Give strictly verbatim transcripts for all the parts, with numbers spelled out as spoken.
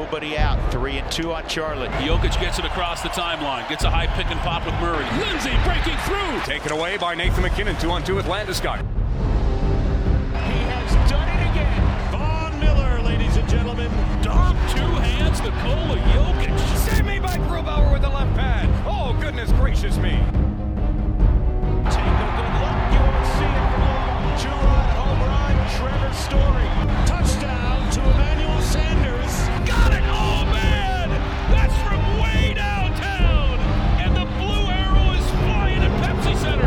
nobody out. Three and two on Charlotte. Jokic gets it across the timeline. Gets a high pick and pop with Murray. Lindsay breaking through. Taken away by Nathan McKinnon. Two on two with Landeskog. He has done it again. Von Miller, ladies and gentlemen. Dom, two hands, Nikola Jokic. Save me by Grubauer with the left pad. Oh, goodness gracious me. Take a good look. You won't see it for long. Two-run home run, Trevor Story. Touchdown to Emmanuel Sanders. Got it! Oh, man! That's from way downtown! And the blue arrow is flying at Pepsi Center.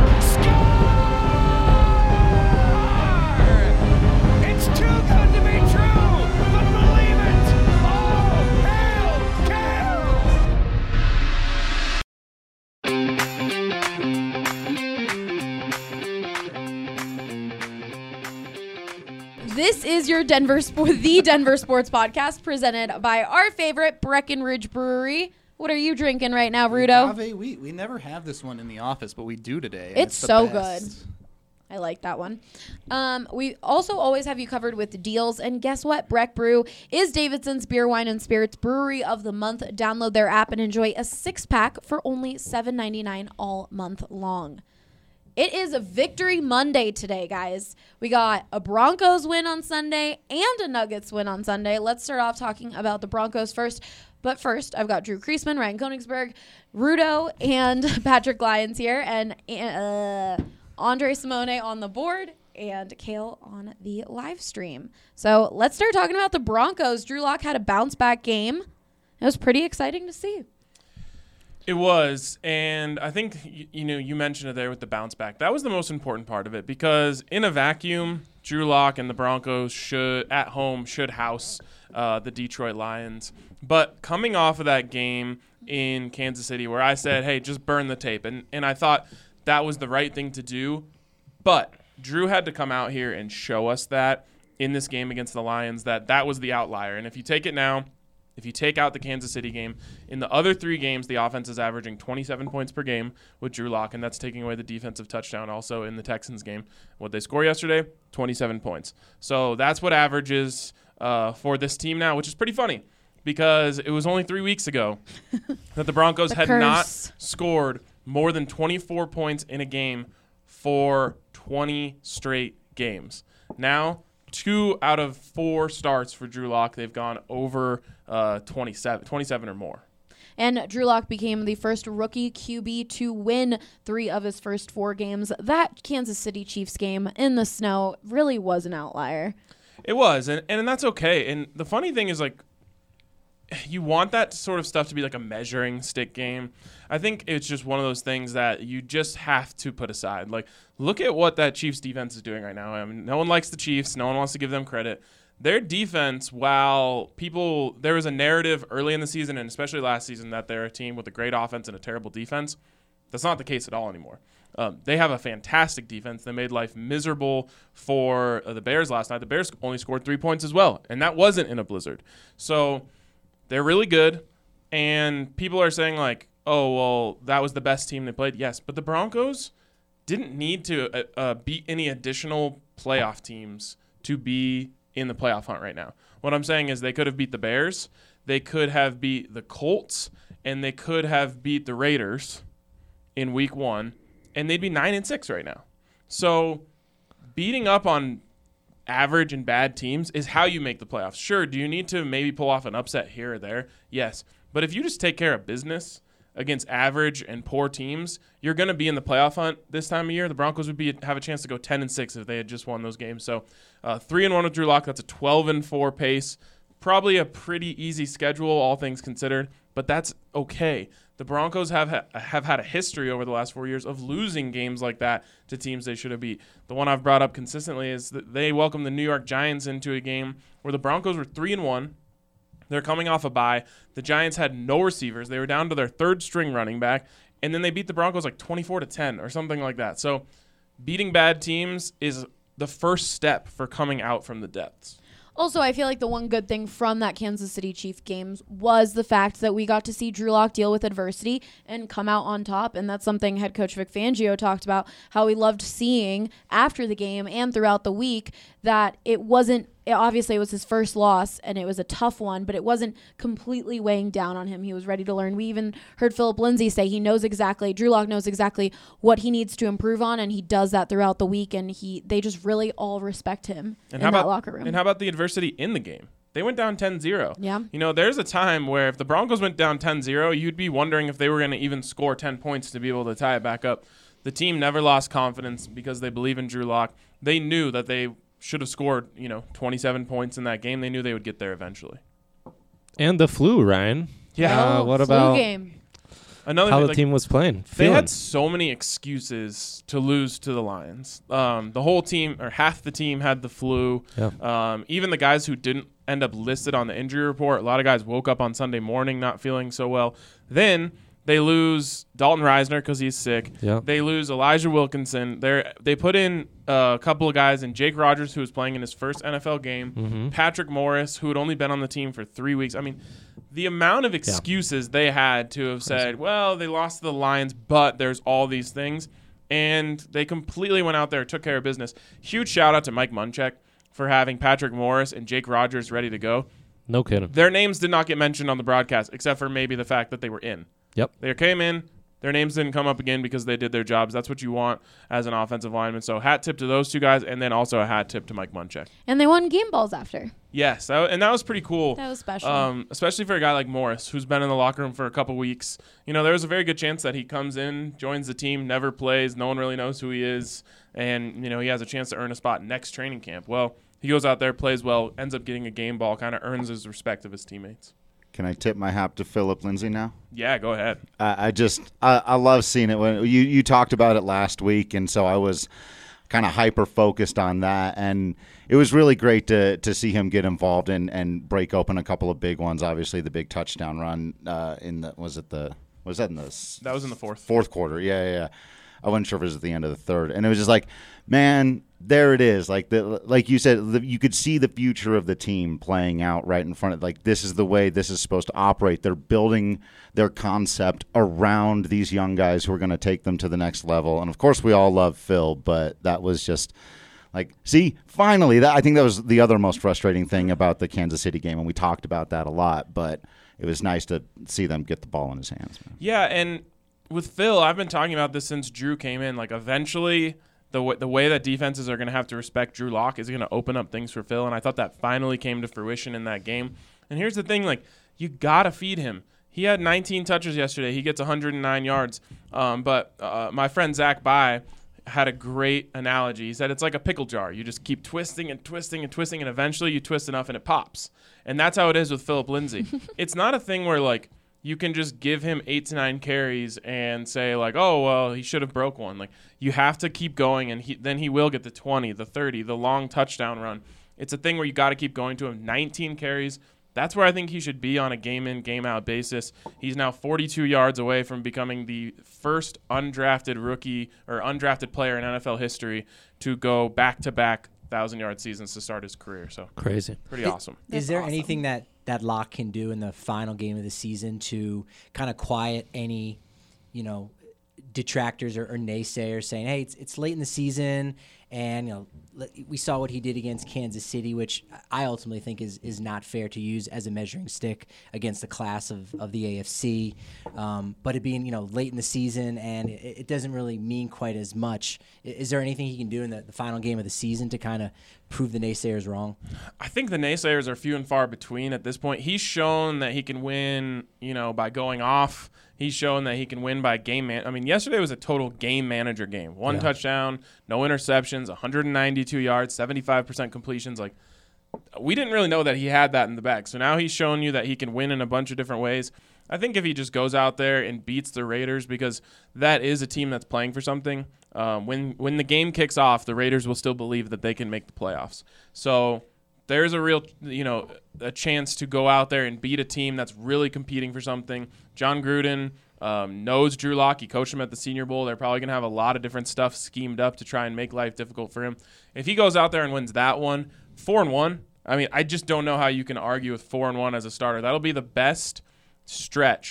Score! It's too good to be true, but believe it! Oh, hail, This is your Denver Sport, the Denver Sports Podcast, presented by our favorite Breckenridge Brewery. What are you drinking right now, Rudo? Agave wheat. We never have this one in the office, but we do today. and It's it's the so best. good. I like that one. Um, we also always have you covered with deals. And guess what? Breck Brew is Davidson's Beer, Wine, and Spirits Brewery of the Month. Download their app and enjoy a six-pack for only seven ninety-nine all month long. It is a Victory Monday today, guys. We got a Broncos win on Sunday and a Nuggets win on Sunday. Let's start off talking about the Broncos first. But first, I've got Drew Kriesman, Ryan Koenigsberg, Rudo, and Patrick Lyons here, and uh, Andre Simone on the board, and Kale on the live stream. So let's start talking about the Broncos. Drew Lock had a bounce-back game. It was pretty exciting to see. It was, and I think, you, you know, you mentioned it there with the bounce back. That was the most important part of it, because in a vacuum, Drew Lock and the Broncos should, at home, should house uh, the Detroit Lions. But coming off of that game in Kansas City where I said, hey, just burn the tape, and, and I thought that was the right thing to do, but Drew had to come out here and show us that in this game against the Lions, that that was the outlier. And if you take it now, if you take out the Kansas City game, in the other three games, the offense is averaging twenty-seven points per game with Drew Lock, and that's taking away the defensive touchdown also in the Texans game. What they score yesterday, twenty-seven points. So that's what averages uh, for this team now, which is pretty funny because it was only three weeks ago that the Broncos The had curse. not scored more than twenty-four points in a game for twenty straight games. Now, two out of four starts for Drew Lock, they've gone over uh, twenty-seven, twenty-seven or more. And Drew Lock became the first rookie Q B to win three of his first four games. That Kansas City Chiefs game in the snow really was an outlier. It was, and, and that's okay. And the funny thing is, like, you want that sort of stuff to be like a measuring stick game. I think it's just one of those things that you just have to put aside. Like, look at what that Chiefs defense is doing right now. I mean, no one likes the Chiefs. No one wants to give them credit. Their defense, while people, there was a narrative early in the season and especially last season that they're a team with a great offense and a terrible defense. That's not the case at all anymore. Um, they have a fantastic defense. They made life miserable for uh, the Bears last night. The Bears only scored three points as well, and that wasn't in a blizzard. So they're really good, and people are saying, like, oh, well, that was the best team they played. Yes, but the Broncos didn't need to uh, uh, beat any additional playoff teams to be in the playoff hunt right now. What I'm saying is they could have beat the Bears, they could have beat the Colts, and they could have beat the Raiders in week one, and they'd be nine and six right now. So beating up on average and bad teams is how you make the playoffs. Sure, do you need to maybe pull off an upset here or there? Yes. But if you just take care of business against average and poor teams, you're going to be in the playoff hunt this time of year. The Broncos would be have a chance to go ten and six if they had just won those games. So uh, three and one with Drew Lock, that's a twelve and four pace. Probably a pretty easy schedule, all things considered, but that's okay. The Broncos have ha- have had a history over the last four years of losing games like that to teams they should have beat. The one I've brought up consistently is that they welcomed the New York Giants into a game where the Broncos were three and one. They're coming off a bye. The Giants had no receivers. They were down to their third string running back, and then they beat the Broncos like twenty-four to ten or something like that. So beating bad teams is the first step for coming out from the depths. Also, I feel like the one good thing from that Kansas City Chiefs games was the fact that we got to see Drew Lock deal with adversity and come out on top, and that's something head coach Vic Fangio talked about, how he loved seeing after the game and throughout the week that it wasn't it, obviously it was his first loss and it was a tough one, but it wasn't completely weighing down on him. He was ready to learn. We even heard Philip Lindsay say he knows exactly, Drew Lock knows exactly what he needs to improve on, and he does that throughout the week, and he they just really all respect him and in how that about, locker room. And how about the adversity in the game? They went down ten zero. Yeah. You know, there's a time where if the Broncos went down ten zero, you'd be wondering if they were going to even score ten points to be able to tie it back up. The team never lost confidence because they believe in Drew Lock. They knew that they should have scored, you know, twenty-seven points in that game. They knew they would get there eventually. And the flu, Ryan. Yeah. Uh, what Flu about game. Another how thing, the like, team was playing? They Feeling. had so many excuses to lose to the Lions. Um, the whole team, or half the team, had the flu. Yeah. Um, even the guys who didn't end up listed on the injury report, a lot of guys woke up on Sunday morning not feeling so well. Then they lose Dalton Reisner because he's sick. Yeah. They lose Elijah Wilkinson. They they put in uh, a couple of guys, in Jake Rogers, who was playing in his first N F L game, Mm-hmm. Patrick Morris, who had only been on the team for three weeks. I mean, the amount of excuses they had to have said, well, they lost to the Lions, but there's all these things. And they completely went out there, took care of business. Huge shout out to Mike Munchak for having Patrick Morris and Jake Rogers ready to go. No kidding. Their names did not get mentioned on the broadcast, except for maybe the fact that they were in. Yep. They came in. Their names didn't come up again because they did their jobs. That's what you want as an offensive lineman. So hat tip to those two guys, and then also a hat tip to Mike Munchak. And they won game balls after. Yes, that, and that was pretty cool. That was special. Um, especially for a guy like Morris, who's been in the locker room for a couple weeks. You know, there's a very good chance that he comes in, joins the team, never plays, no one really knows who he is, and, you know, he has a chance to earn a spot next training camp. Well, he goes out there, plays well, ends up getting a game ball, kind of earns his respect of his teammates. Can I tip my hat to Philip Lindsay now? Yeah, go ahead. I, I just I, I love seeing it. When you, you talked about it last week, and so I was kind of hyper focused on that, and it was really great to to see him get involved and, and break open a couple of big ones. Obviously, the big touchdown run uh, in the was it the was that in the That was in the fourth. fourth quarter? Yeah, yeah, yeah. I wasn't sure if it was at the end of the third, and it was just like, man, there it is. Like the like you said, the, you could see the future of the team playing out right in front of. Like this is the way this is supposed to operate. They're building their concept around these young guys who are going to take them to the next level. And of course, we all love Phil, but that was just like, see, finally, that I think that was the other most frustrating thing about the Kansas City game, and we talked about that a lot. But it was nice to see them get the ball in his hands. Man. Yeah, and with Phil, I've been talking about this since Drew came in. Like, eventually, the w- the way that defenses are going to have to respect Drew Lock is going to open up things for Phil, and I thought that finally came to fruition in that game. And here's the thing, like, you got to feed him. He had nineteen touches yesterday. He gets one hundred nine yards. Um, but uh, my friend Zach Bai had a great analogy. He said it's like a pickle jar. You just keep twisting and twisting and twisting, and eventually you twist enough and it pops. And that's how it is with Philip Lindsay. It's not a thing where, like, you can just give him eight to nine carries and say, like, oh, well, he should have broke one. Like, you have to keep going, and he, then he will get the twenty, the thirty, the long touchdown run. It's a thing where you got to keep going to him. nineteen carries. That's where I think he should be on a game-in, game-out basis. He's now forty-two yards away from becoming the first undrafted rookie or undrafted player in N F L history to go back-to-back one thousand-yard seasons to start his career. So Crazy. pretty It- awesome. Is That's there awesome. anything that, that Locke can do in the final game of the season to kind of quiet any, you know, detractors or, or naysayers saying, hey, it's it's late in the season, and you know let- we saw what he did against Kansas City, which I ultimately think is is not fair to use as a measuring stick against the class of, of the A F C. Um, but it being, you know, late in the season and it, it doesn't really mean quite as much. I- Is there anything he can do in the, the final game of the season to kind of prove the naysayers wrong? I think the naysayers are few and far between at this point. He's shown that he can win, you know, by going off. He's shown that he can win by game man. I mean, yesterday was a total game manager game. One Yeah. touchdown, no interceptions, one hundred ninety-two yards, seventy-five percent completions. Like, we didn't really know that he had that in the bag. So now he's shown you that he can win in a bunch of different ways. I think if he just goes out there and beats the Raiders, because that is a team that's playing for something, um, when when the game kicks off, the Raiders will still believe that they can make the playoffs. So there's a real, you know, a chance to go out there and beat a team that's really competing for something. John Gruden um, knows Drew Lock. He coached him at the Senior Bowl. They're probably going to have a lot of different stuff schemed up to try and make life difficult for him. If he goes out there and wins that one, four and one, I mean, I just don't know how you can argue with four and one as a starter. That'll be the best stretch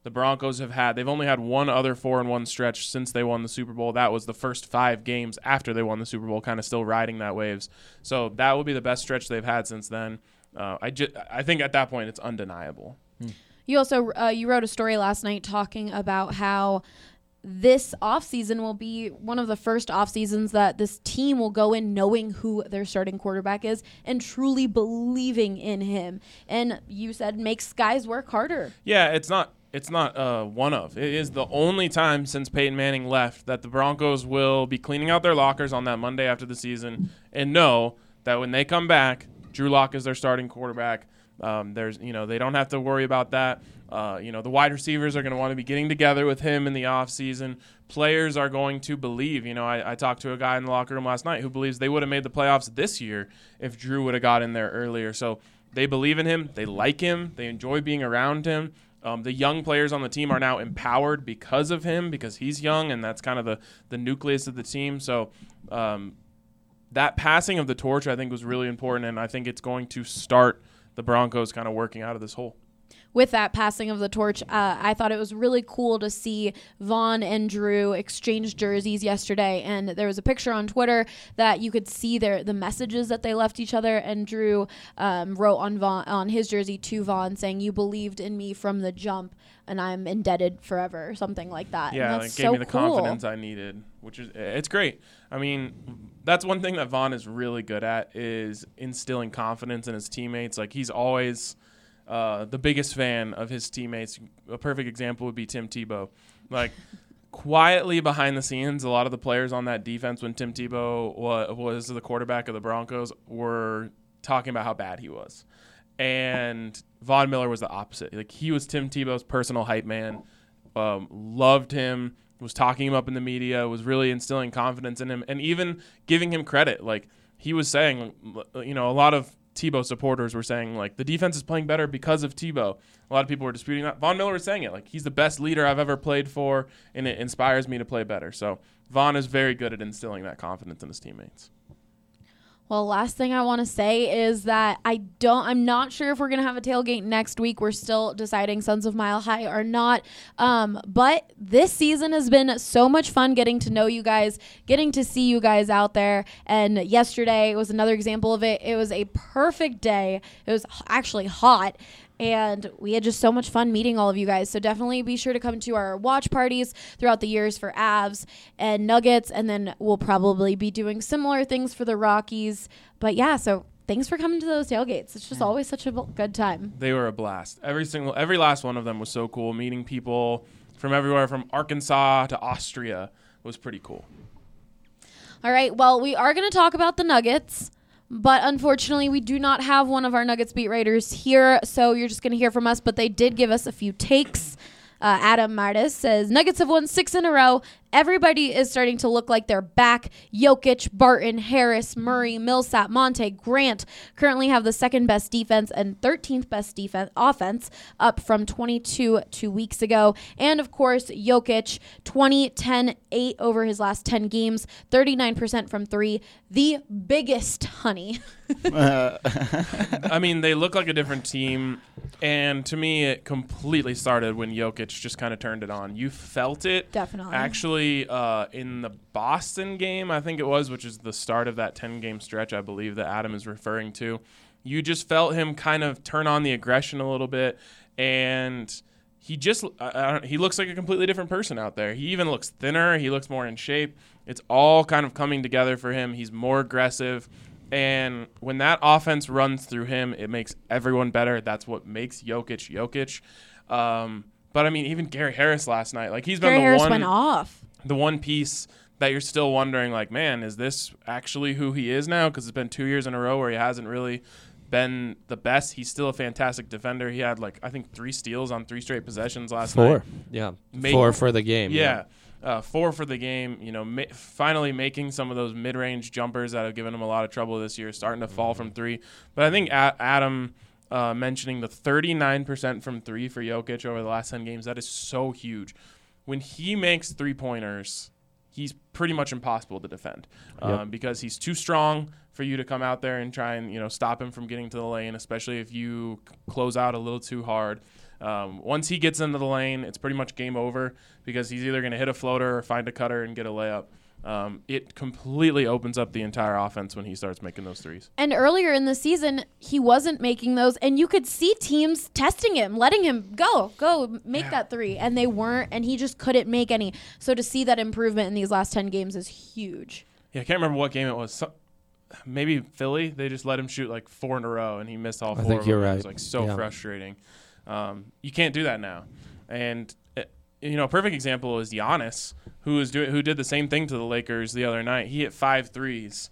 The Broncos have had, they've only had one other four and one stretch since they won the Super Bowl. That was the first five games after they won the Super Bowl, kind of still riding that waves. So that will be the best stretch they've had since then. Uh, I, ju- I think at that point it's undeniable. You also uh, you wrote a story last night talking about how this offseason will be one of the first off seasons that this team will go in knowing who their starting quarterback is and truly believing in him. And you said makes guys work harder. Yeah, it's not it's not uh, one of. It is the only time since Peyton Manning left that the Broncos will be cleaning out their lockers on that Monday after the season and know that when they come back, Drew Lock is their starting quarterback. Um, there's, you know, they don't have to worry about that. Uh, you know, the wide receivers are going to want to be getting together with him in the offseason. Players are going to believe. You know, I, I talked to a guy in the locker room last night who believes they would have made the playoffs this year if Drew would have got in there earlier. So they believe in him. They like him. They enjoy being around him. Um, the young players on the team are now empowered because of him, because he's young, and that's kind of the, the nucleus of the team. So um, that passing of the torch, I think, was really important, and I think it's going to start the Broncos kind of working out of this hole. With that passing of the torch, uh, I thought it was really cool to see Vaughn and Drew exchange jerseys yesterday. And there was a picture on Twitter that you could see their the messages that they left each other. And Drew um, wrote on Vaughn, on his jersey to Vaughn saying, "You believed in me from the jump, and I'm indebted forever," or something like that. Yeah, and that's it gave so me the cool. confidence I needed, which is it's great. I mean, that's one thing that Vaughn is really good at is instilling confidence in his teammates. Like he's always uh, the biggest fan of his teammates. A perfect example would be Tim Tebow. Like quietly behind the scenes, a lot of the players on that defense when Tim Tebow wa- was the quarterback of the Broncos were talking about how bad he was. And Von Miller was the opposite. Like he was Tim Tebow's personal hype man, um, loved him, was talking him up in the media, was really instilling confidence in him, and even giving him credit. Like he was saying, you know, a lot of Tebow supporters were saying, like, the defense is playing better because of Tebow. A lot of people were disputing that. Von Miller was saying it. Like, he's the best leader I've ever played for, and it inspires me to play better. So Von is very good at instilling that confidence in his teammates. Well, last thing I want to say is that I don't, I'm not sure if we're going to have a tailgate next week. We're still deciding Sons of Mile High or not. Um, but this season has been so much fun getting to know you guys, getting to see you guys out there. And yesterday was another example of it. It was a perfect day. It was actually hot. And we had just so much fun meeting all of you guys. So definitely be sure to come to our watch parties throughout the years for Avs and Nuggets. And then we'll probably be doing similar things for the Rockies. But yeah, so thanks for coming to those tailgates. It's just yeah. always such a good time. They were a blast. Every single, every last one of them was so cool. Meeting people from everywhere, from Arkansas to Austria, was pretty cool. All right. Well, we are going to talk about the Nuggets. But unfortunately, we do not have one of our Nuggets beat writers here, so you're just going to hear from us. But they did give us a few takes. Uh, Adam Martis says, Nuggets have won six in a row. Everybody is starting to look like they're back. Jokic, Barton, Harris, Murray, Millsap, Monte, Grant currently have the second best defense and thirteenth best defense offense, up from twenty-two two weeks ago. And of course, Jokic, twenty, ten, eight over his last ten games, thirty-nine percent from three. The biggest, honey. I mean, they look like a different team. And to me, it completely started when Jokic just kind of turned it on. You felt it. Definitely. Actually, uh, in the Boston game, I think it was, which is the start of that ten-game stretch, I believe, that Adam is referring to. You just felt him kind of turn on the aggression a little bit. And he just I, I don't, he looks like a completely different person out there. He even looks thinner. He looks more in shape. It's all kind of coming together for him. He's more aggressive. And when that offense runs through him, it makes everyone better. That's what makes Jokic Jokic. Um, but I mean, even Gary Harris last night, like he's been Gary the Harris one, went off. the one piece that you're still wondering, like, man, is this actually who he is now? Because it's been two years in a row where he hasn't really been the best. He's still a fantastic defender. He had like I think three steals on three straight possessions last Four. night. Four, yeah, Make, four for the game. Yeah. yeah. Uh, four for the game, you know, ma- finally making some of those mid-range jumpers that have given him a lot of trouble this year, starting to fall from three. But I think a- Adam uh, mentioning the thirty-nine percent from three for Jokic over the last ten games, that is so huge. When he makes three-pointers, he's pretty much impossible to defend um, Yep. because he's too strong for you to come out there and try and, you know, stop him from getting to the lane, especially if you c- close out a little too hard. Um, once he gets into the lane, it's pretty much game over because he's either going to hit a floater or find a cutter and get a layup. Um, it completely opens up the entire offense when he starts making those threes. And earlier in the season, he wasn't making those, and you could see teams testing him, letting him go, go, make Yeah. that three, and they weren't, and he just couldn't make any. So to see that improvement in these last ten games is huge. Yeah, I can't remember what game it was. So, maybe Philly. They just let him shoot like four in a row, and he missed all I four. think of you're them. It right. was like so Yeah. frustrating. Um, you can't do that now. And uh, you know, a perfect example is Giannis, who was doing, who did the same thing to the Lakers the other night. He hit five threes,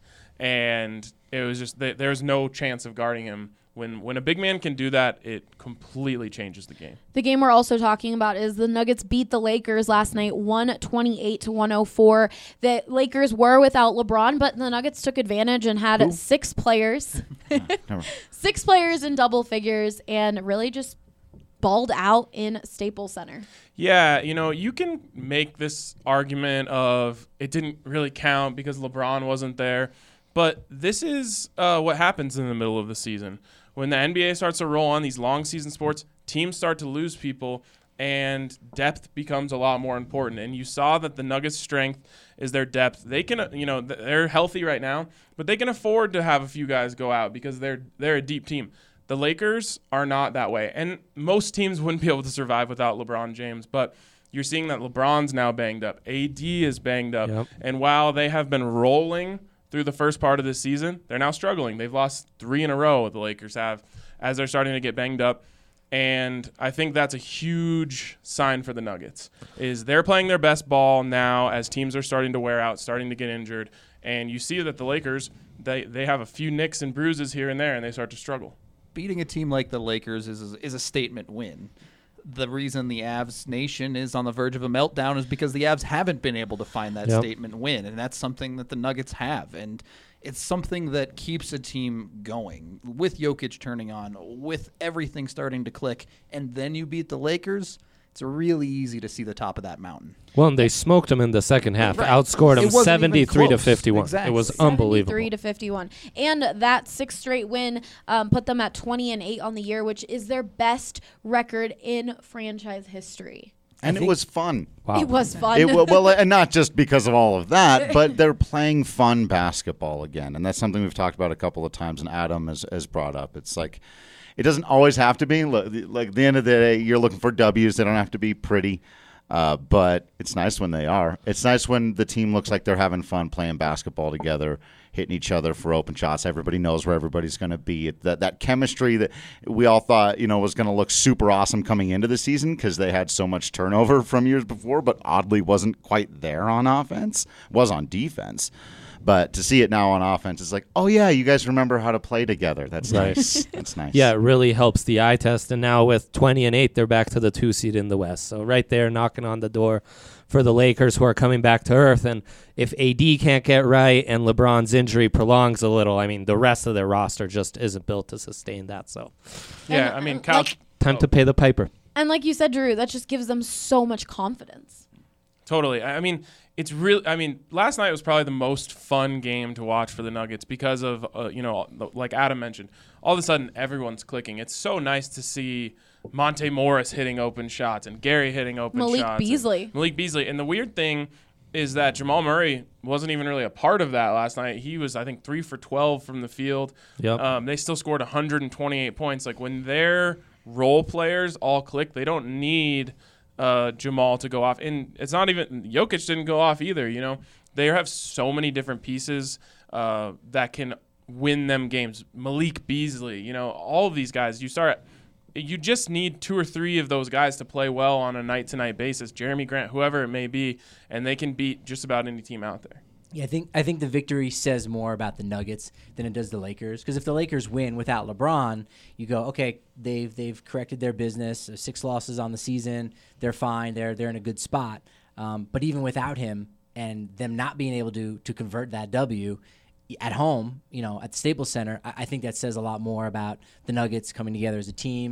and it was just th- there was no chance of guarding him. When when a big man can do that, it completely changes the game. The game we're also talking about is the Nuggets beat the Lakers last night, one twenty-eight to one oh four. The Lakers were without LeBron, but the Nuggets took advantage and had Who? six players, Never. six players in double figures, and really just balled out in Staples Center. Yeah, you know, you can make this argument of it didn't really count because LeBron wasn't there, but this is uh, what happens in the middle of the season. When the N B A starts to roll on these long season sports, teams start to lose people, and depth becomes a lot more important. And you saw that the Nuggets' strength is their depth. They can, uh, you know, th- they're healthy right now, but they can afford to have a few guys go out because they're they're a deep team. The Lakers are not that way, and most teams wouldn't be able to survive without LeBron James, but you're seeing that LeBron's now banged up. A D is banged up, Yep. and while they have been rolling through the first part of this season, they're now struggling. They've lost three in a row, the Lakers have, as they're starting to get banged up, and I think that's a huge sign for the Nuggets, is they're playing their best ball now as teams are starting to wear out, starting to get injured, and you see that the Lakers, they, they have a few nicks and bruises here and there, and they start to struggle. Beating a team like the Lakers is is a statement win. The reason the Avs nation is on the verge of a meltdown is because the Avs haven't been able to find that Yep. statement win, and that's something that the Nuggets have, and it's something that keeps a team going. With Jokic turning on, with everything starting to click, and then you beat the Lakers, it's really easy to see the top of that mountain. Well, and they smoked them in the second half, Right. outscored It them wasn't even seventy-three to close. fifty-one. Exactly. It was unbelievable. seventy-three to fifty-one. And that sixth straight win um, put them at twenty and eight on the year, which is their best record in franchise history. And it was fun. Wow. It was fun. It, wa- well, and not just because of all of that, but they're playing fun basketball again, and that's something we've talked about a couple of times, and Adam has, has brought up. It's like it doesn't always have to be. Look, like at the end of the day, you're looking for W's. They don't have to be pretty, uh, but it's nice when they are. It's nice when the team looks like they're having fun playing basketball together, hitting each other for open shots. Everybody knows where everybody's going to be. It, that that chemistry that we all thought, you know, was going to look super awesome coming into the season because they had so much turnover from years before, but oddly wasn't quite there on offense. Was on defense. But to see it now on offense, it's like, oh yeah, you guys remember how to play together. That's Right. nice. That's nice. Yeah, it really helps the eye test. And now with twenty and eight, they're back to the two seed in the West. So right there, knocking on the door for the Lakers, who are coming back to earth. And if A D can't get right and LeBron's injury prolongs a little, I mean, the rest of their roster just isn't built to sustain that. So Yeah, And, I mean, uh, Cal. like- time to pay the piper. And like you said, Drew, that just gives them so much confidence. Totally. I I mean, it's really. I mean, last night was probably the most fun game to watch for the Nuggets because of, uh, you know, like Adam mentioned, all of a sudden everyone's clicking. It's so nice to see Monte Morris hitting open shots and Gary hitting open Malik shots. and Beasley. Malik Beasley. And the weird thing is that Jamal Murray wasn't even really a part of that last night. He was, I think, three for twelve from the field. Yep. Um, they still scored one hundred twenty-eight points. Like when their role players all click, they don't need uh, Jamal to go off. And it's not even Jokic didn't go off either. You know, they have so many different pieces uh, that can win them games. Malik Beasley, you know, all of these guys. You start. You just need two or three of those guys to play well on a night-to-night basis. Jeremy Grant, whoever it may be, and they can beat just about any team out there. Yeah, I think I think the victory says more about the Nuggets than it does the Lakers. Because if the Lakers win without LeBron, you go, okay, they've they've corrected their business. Six losses on the season, they're fine. They're they're in a good spot. Um, but even without him and them not being able to to convert that W at home, you know, at the Staples Center, I, I think that says a lot more about the Nuggets coming together as a team.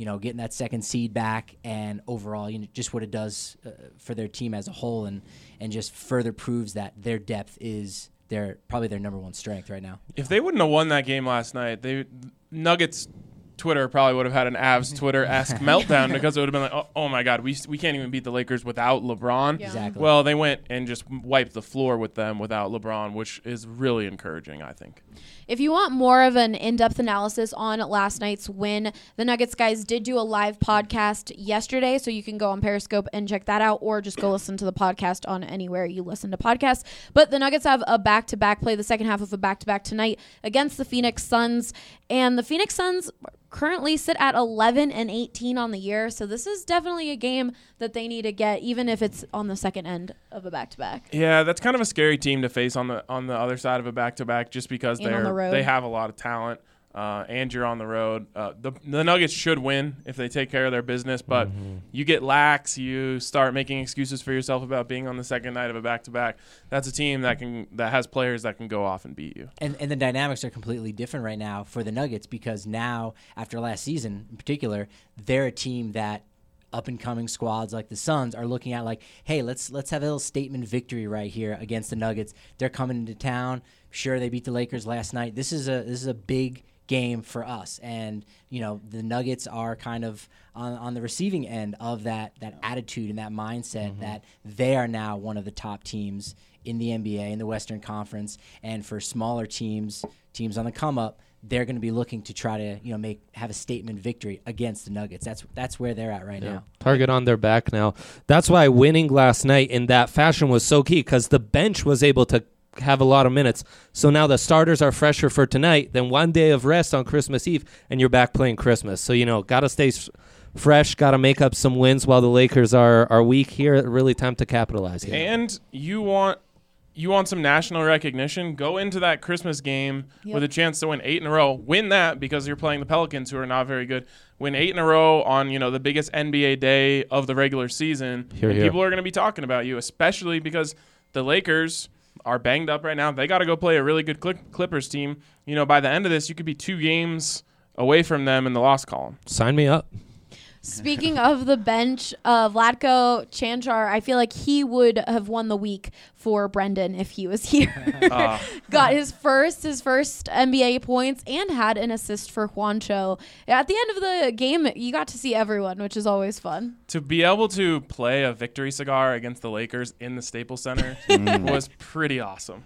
you know, getting that second seed back, and overall, you know, just what it does uh, for their team as a whole, and and just further proves that their depth is their probably their number one strength right now. If they wouldn't have won that game last night, they Nuggets Twitter probably would have had an Avs Twitter-esque meltdown because it would have been like, oh, oh my God, we we can't even beat the Lakers without LeBron. Yeah. Exactly. Well, they went and just wiped the floor with them without LeBron, which is really encouraging, I think. If you want more of an in-depth analysis on last night's win, the Nuggets guys did do a live podcast yesterday, so you can go on Periscope and check that out, or just go listen to the podcast on anywhere you listen to podcasts. But the Nuggets have a back-to-back play, the second half of a back-to-back tonight against the Phoenix Suns, and the Phoenix Suns currently sit at eleven and eighteen on the year, so this is definitely a game that they need to get, even if it's on the second end of a back-to-back. Yeah, that's kind of a scary team to face on the on the other side of a back-to-back, just because And on they're the road. they have a lot of talent, uh, and you're on the road. Uh, the the Nuggets should win if they take care of their business, but Mm-hmm. you get lax, you start making excuses for yourself about being on the second night of a back-to-back. That's a team that can that has players that can go off and beat you. And and the dynamics are completely different right now for the Nuggets, because now, after last season in particular, they're a team that up-and-coming squads like the Suns are looking at like, hey, let's let's have a little statement victory right here against the Nuggets. They're coming into town. Sure, they beat the Lakers last night. This is a this is a big game for us, and you know the Nuggets are kind of on, on the receiving end of that that attitude and that mindset that they are now one of the top teams in the N B A, in the Western Conference, and for smaller teams, teams on the come up, they're going to be looking to try to, you know, make have a statement victory against the Nuggets. That's that's where they're at right now. Target on their back now. That's why winning last night in that fashion was so key, because the bench was able to have a lot of minutes. So now the starters are fresher for tonight. Then one day of rest on Christmas Eve, and you're back playing Christmas. So, you know, got to stay s- fresh, got to make up some wins while the Lakers are, are weak here. Really time to capitalize here. And you want you want some national recognition, go into that Christmas game Yep. with a chance to win eight in a row. Win that because you're playing the Pelicans, who are not very good. Win eight in a row on, you know, the biggest N B A day of the regular season. Hear, and hear. people are going to be talking about you, especially because the Lakers are banged up right now. They got to go play a really good Clip- Clippers team. You know, by the end of this, you could be two games away from them in the loss column. Sign me up. Speaking of the bench, uh, Vlatko Chanchar, I feel like he would have won the week for Brendan if he was here. Uh, Got his first his first N B A points and had an assist for Juancho. At the end of the game, you got to see everyone, which is always fun. to be able to play a victory cigar against the Lakers in the Staples Center was pretty awesome.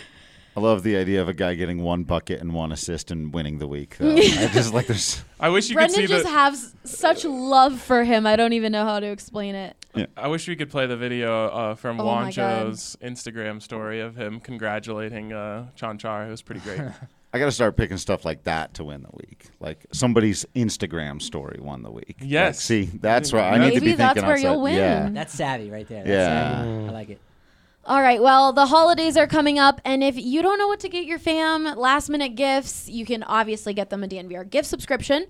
I love the idea of a guy getting one bucket and one assist and winning the week. Though. I just like there's. I wish you Brendan could see just the. has such love for him. I don't even know how to explain it. I wish we could play the video uh, from Oh my God. Juancho's Instagram story of him congratulating uh, Chanchar. It was pretty great. I got to start picking stuff like that to win the week. Like somebody's Instagram story won the week. Yes. Like, see, that's right. I need to Maybe be that's thinking where outside. you'll win. Yeah. That's savvy right there. That's Yeah. savvy. I like it. All right, well, the holidays are coming up, and if you don't know what to get your fam, last-minute gifts, you can obviously get them a D N V R gift subscription,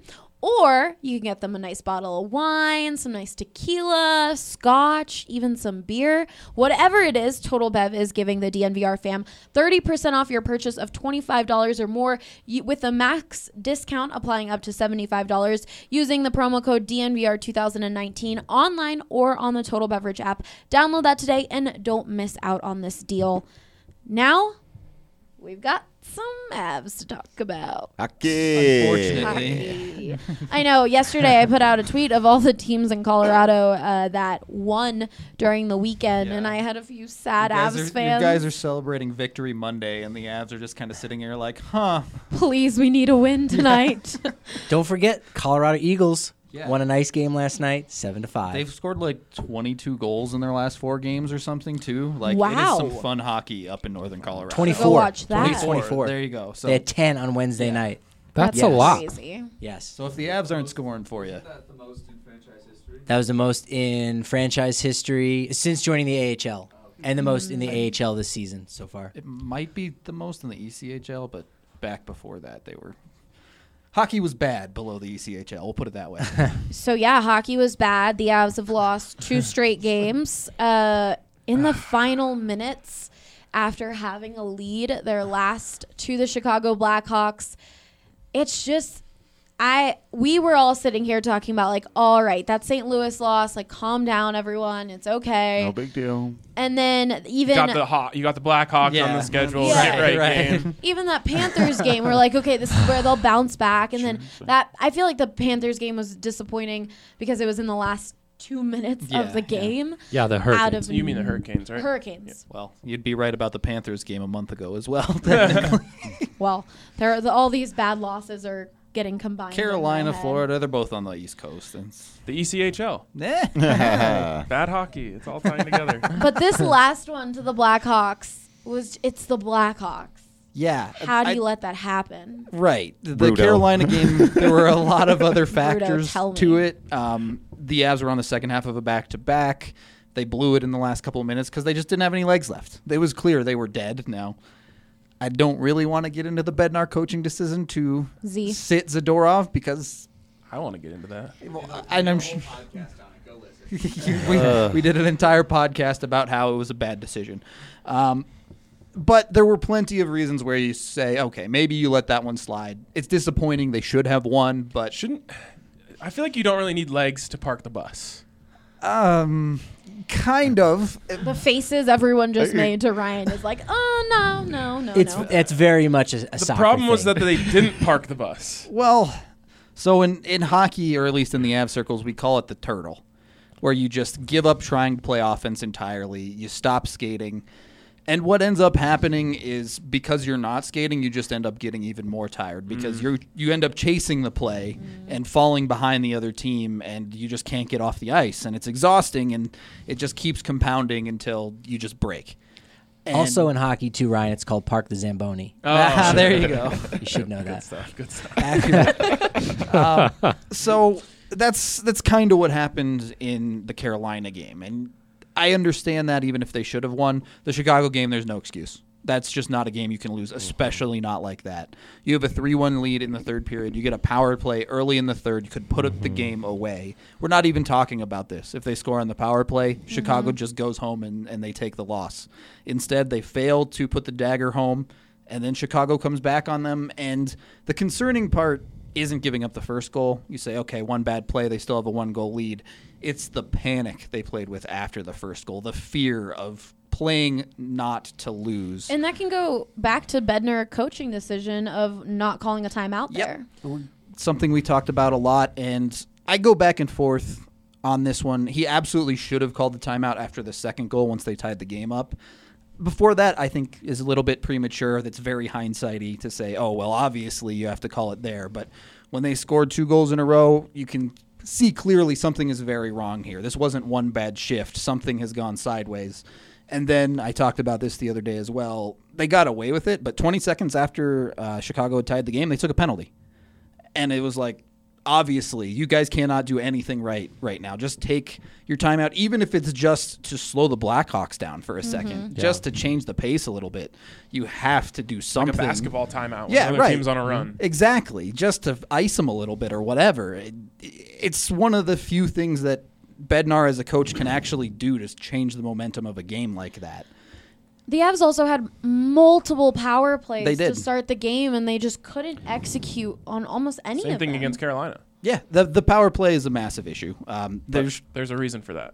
or you can get them a nice bottle of wine, some nice tequila, scotch, even some beer. Whatever it is, Total Bev is giving the D N V R fam thirty percent off your purchase of twenty-five dollars or more you, with a max discount applying up to seventy-five dollars using the promo code D N V R two thousand nineteen online or on the Total Beverage app. Download that today and don't miss out on this deal. Now, we've got some Avs to talk about. Hockey. Unfortunately. Hockey. I know. Yesterday, I put out a tweet of all the teams in Colorado uh, that won during the weekend, Yeah. and I had a few sad You guys Avs are, fans. You guys are celebrating Victory Monday, and the Avs are just kind of sitting here like, huh. Please, we need a win tonight. Don't forget, Colorado Eagles Yeah. won a nice game last night, seven to five. They've scored like twenty-two goals in their last four games or something, too. Like, it Wow. is some fun hockey up in Northern Colorado. twenty-four. Go watch that. twenty, twenty-four. There you go. So, They had ten on Wednesday Yeah. night. That's Yes. a lot. Crazy. Yes. so if the Avs aren't scoring for you, That was the most in franchise history since joining the A H L, and the most in the A H L this season so far. it might be the most in the E C H L, but back before that, they were. Hockey was bad below the E C H L. We'll put it that way. So, yeah, hockey was bad. The Avs have lost two straight games. Uh, in the final minutes, after having a lead, their last to the Chicago Blackhawks, it's just I we were all sitting here talking about like, all right, that Saint Louis loss, like calm down everyone, it's okay. No big deal. And then even got the Haw- you got the Blackhawks Yeah. on the schedule. Yeah. Get right, Right. game. even that Panthers game, we're like, okay, this is where they'll bounce back. And then that I feel like the Panthers game was disappointing because it was in the last two minutes Yeah, of the yeah. game. Yeah, the Out Hurricanes. of You mean the Hurricanes, right? Hurricanes. Well, you'd be right about the Panthers game a month ago as well. technically. Well, there are the, all these bad losses are getting combined. in my Carolina, head. Florida, they're both on the East Coast. And it's- The E C H L. Eh. Bad hockey. It's all tying together. But this last one to the Blackhawks was it's the Blackhawks. Yeah. How do I- you let that happen? Right. The Rudo. Carolina game, there were a lot of other factors tell to me. it. Um, the Avs were on the second half of a back-to-back. They blew it in the last couple of minutes because they just didn't have any legs left. It was clear they were dead now. I don't really want to get into the Bednar coaching decision to Z. sit Zadorov because I want to get into that. and I'm sure we, we did an entire podcast about how it was a bad decision. Um, but there were plenty of reasons where you say, okay, maybe you let that one slide. It's disappointing. They should have won, but Shouldn't I feel like you don't really need legs to park the bus. um, kind of. The faces everyone just made to Ryan is like, oh no, no, no, It's no. it's very much a, a The soccer problem was thing. that they didn't park the bus. Well, so in, in hockey, or at least in the Av circles, we call it the turtle, where you just give up trying to play offense entirely. You stop skating. And what ends up happening is because you're not skating, you just end up getting even more tired because you're you end up chasing the play and falling behind the other team, and you just can't get off the ice, and it's exhausting, and it just keeps compounding until you just break. And Also in hockey too, Ryan. It's called Park the Zamboni. ah, there you go. You should know that. Stuff, good stuff. Accurate. um, so that's that's kind of what happened in the Carolina game, and I understand that even if they should have won the Chicago game, there's no excuse. That's just not a game you can lose, especially not like that. You have a three one lead in the third period. You get a power play early in the third. You could put mm-hmm. the game away. We're not even talking about this. If they score on the power play, mm-hmm. Chicago just goes home and, and they take the loss. Instead, they fail to put the dagger home, and then Chicago comes back on them. And the concerning part isn't giving up the first goal. You say, okay, one bad play, they still have a one-goal lead. It's the panic they played with after the first goal, the fear of playing not to lose. And that can go back to Bednar coaching decision of not calling a timeout there. Yep. Something we talked about a lot, and I go back and forth on this one. He absolutely should have called the timeout after the second goal once they tied the game up. Before that, I think, is a little bit premature. That's very hindsighty to say, oh, well, obviously you have to call it there. But when they scored two goals in a row, you can see clearly something is very wrong here. This wasn't one bad shift. Something has gone sideways. And then I talked about this the other day as well. They got away with it, but twenty seconds after uh, Chicago had tied the game, they took a penalty. And it was like, obviously, you guys cannot do anything right right now. Just take your time out, even if it's just to slow the Blackhawks down for a Mm-hmm. second, just to change the pace a little bit. You have to do something. Like a basketball timeout. When Yeah, the other right. team's on a run. Exactly, just to ice them a little bit or whatever. It, it's one of the few things that Bednar as a coach can actually do to change the momentum of a game like that. The Avs also had multiple power plays They to did. start the game, and they just couldn't execute on almost any Same of thing them. against Carolina. Yeah, the the power play is a massive issue. Um, There's there's there's a reason for that.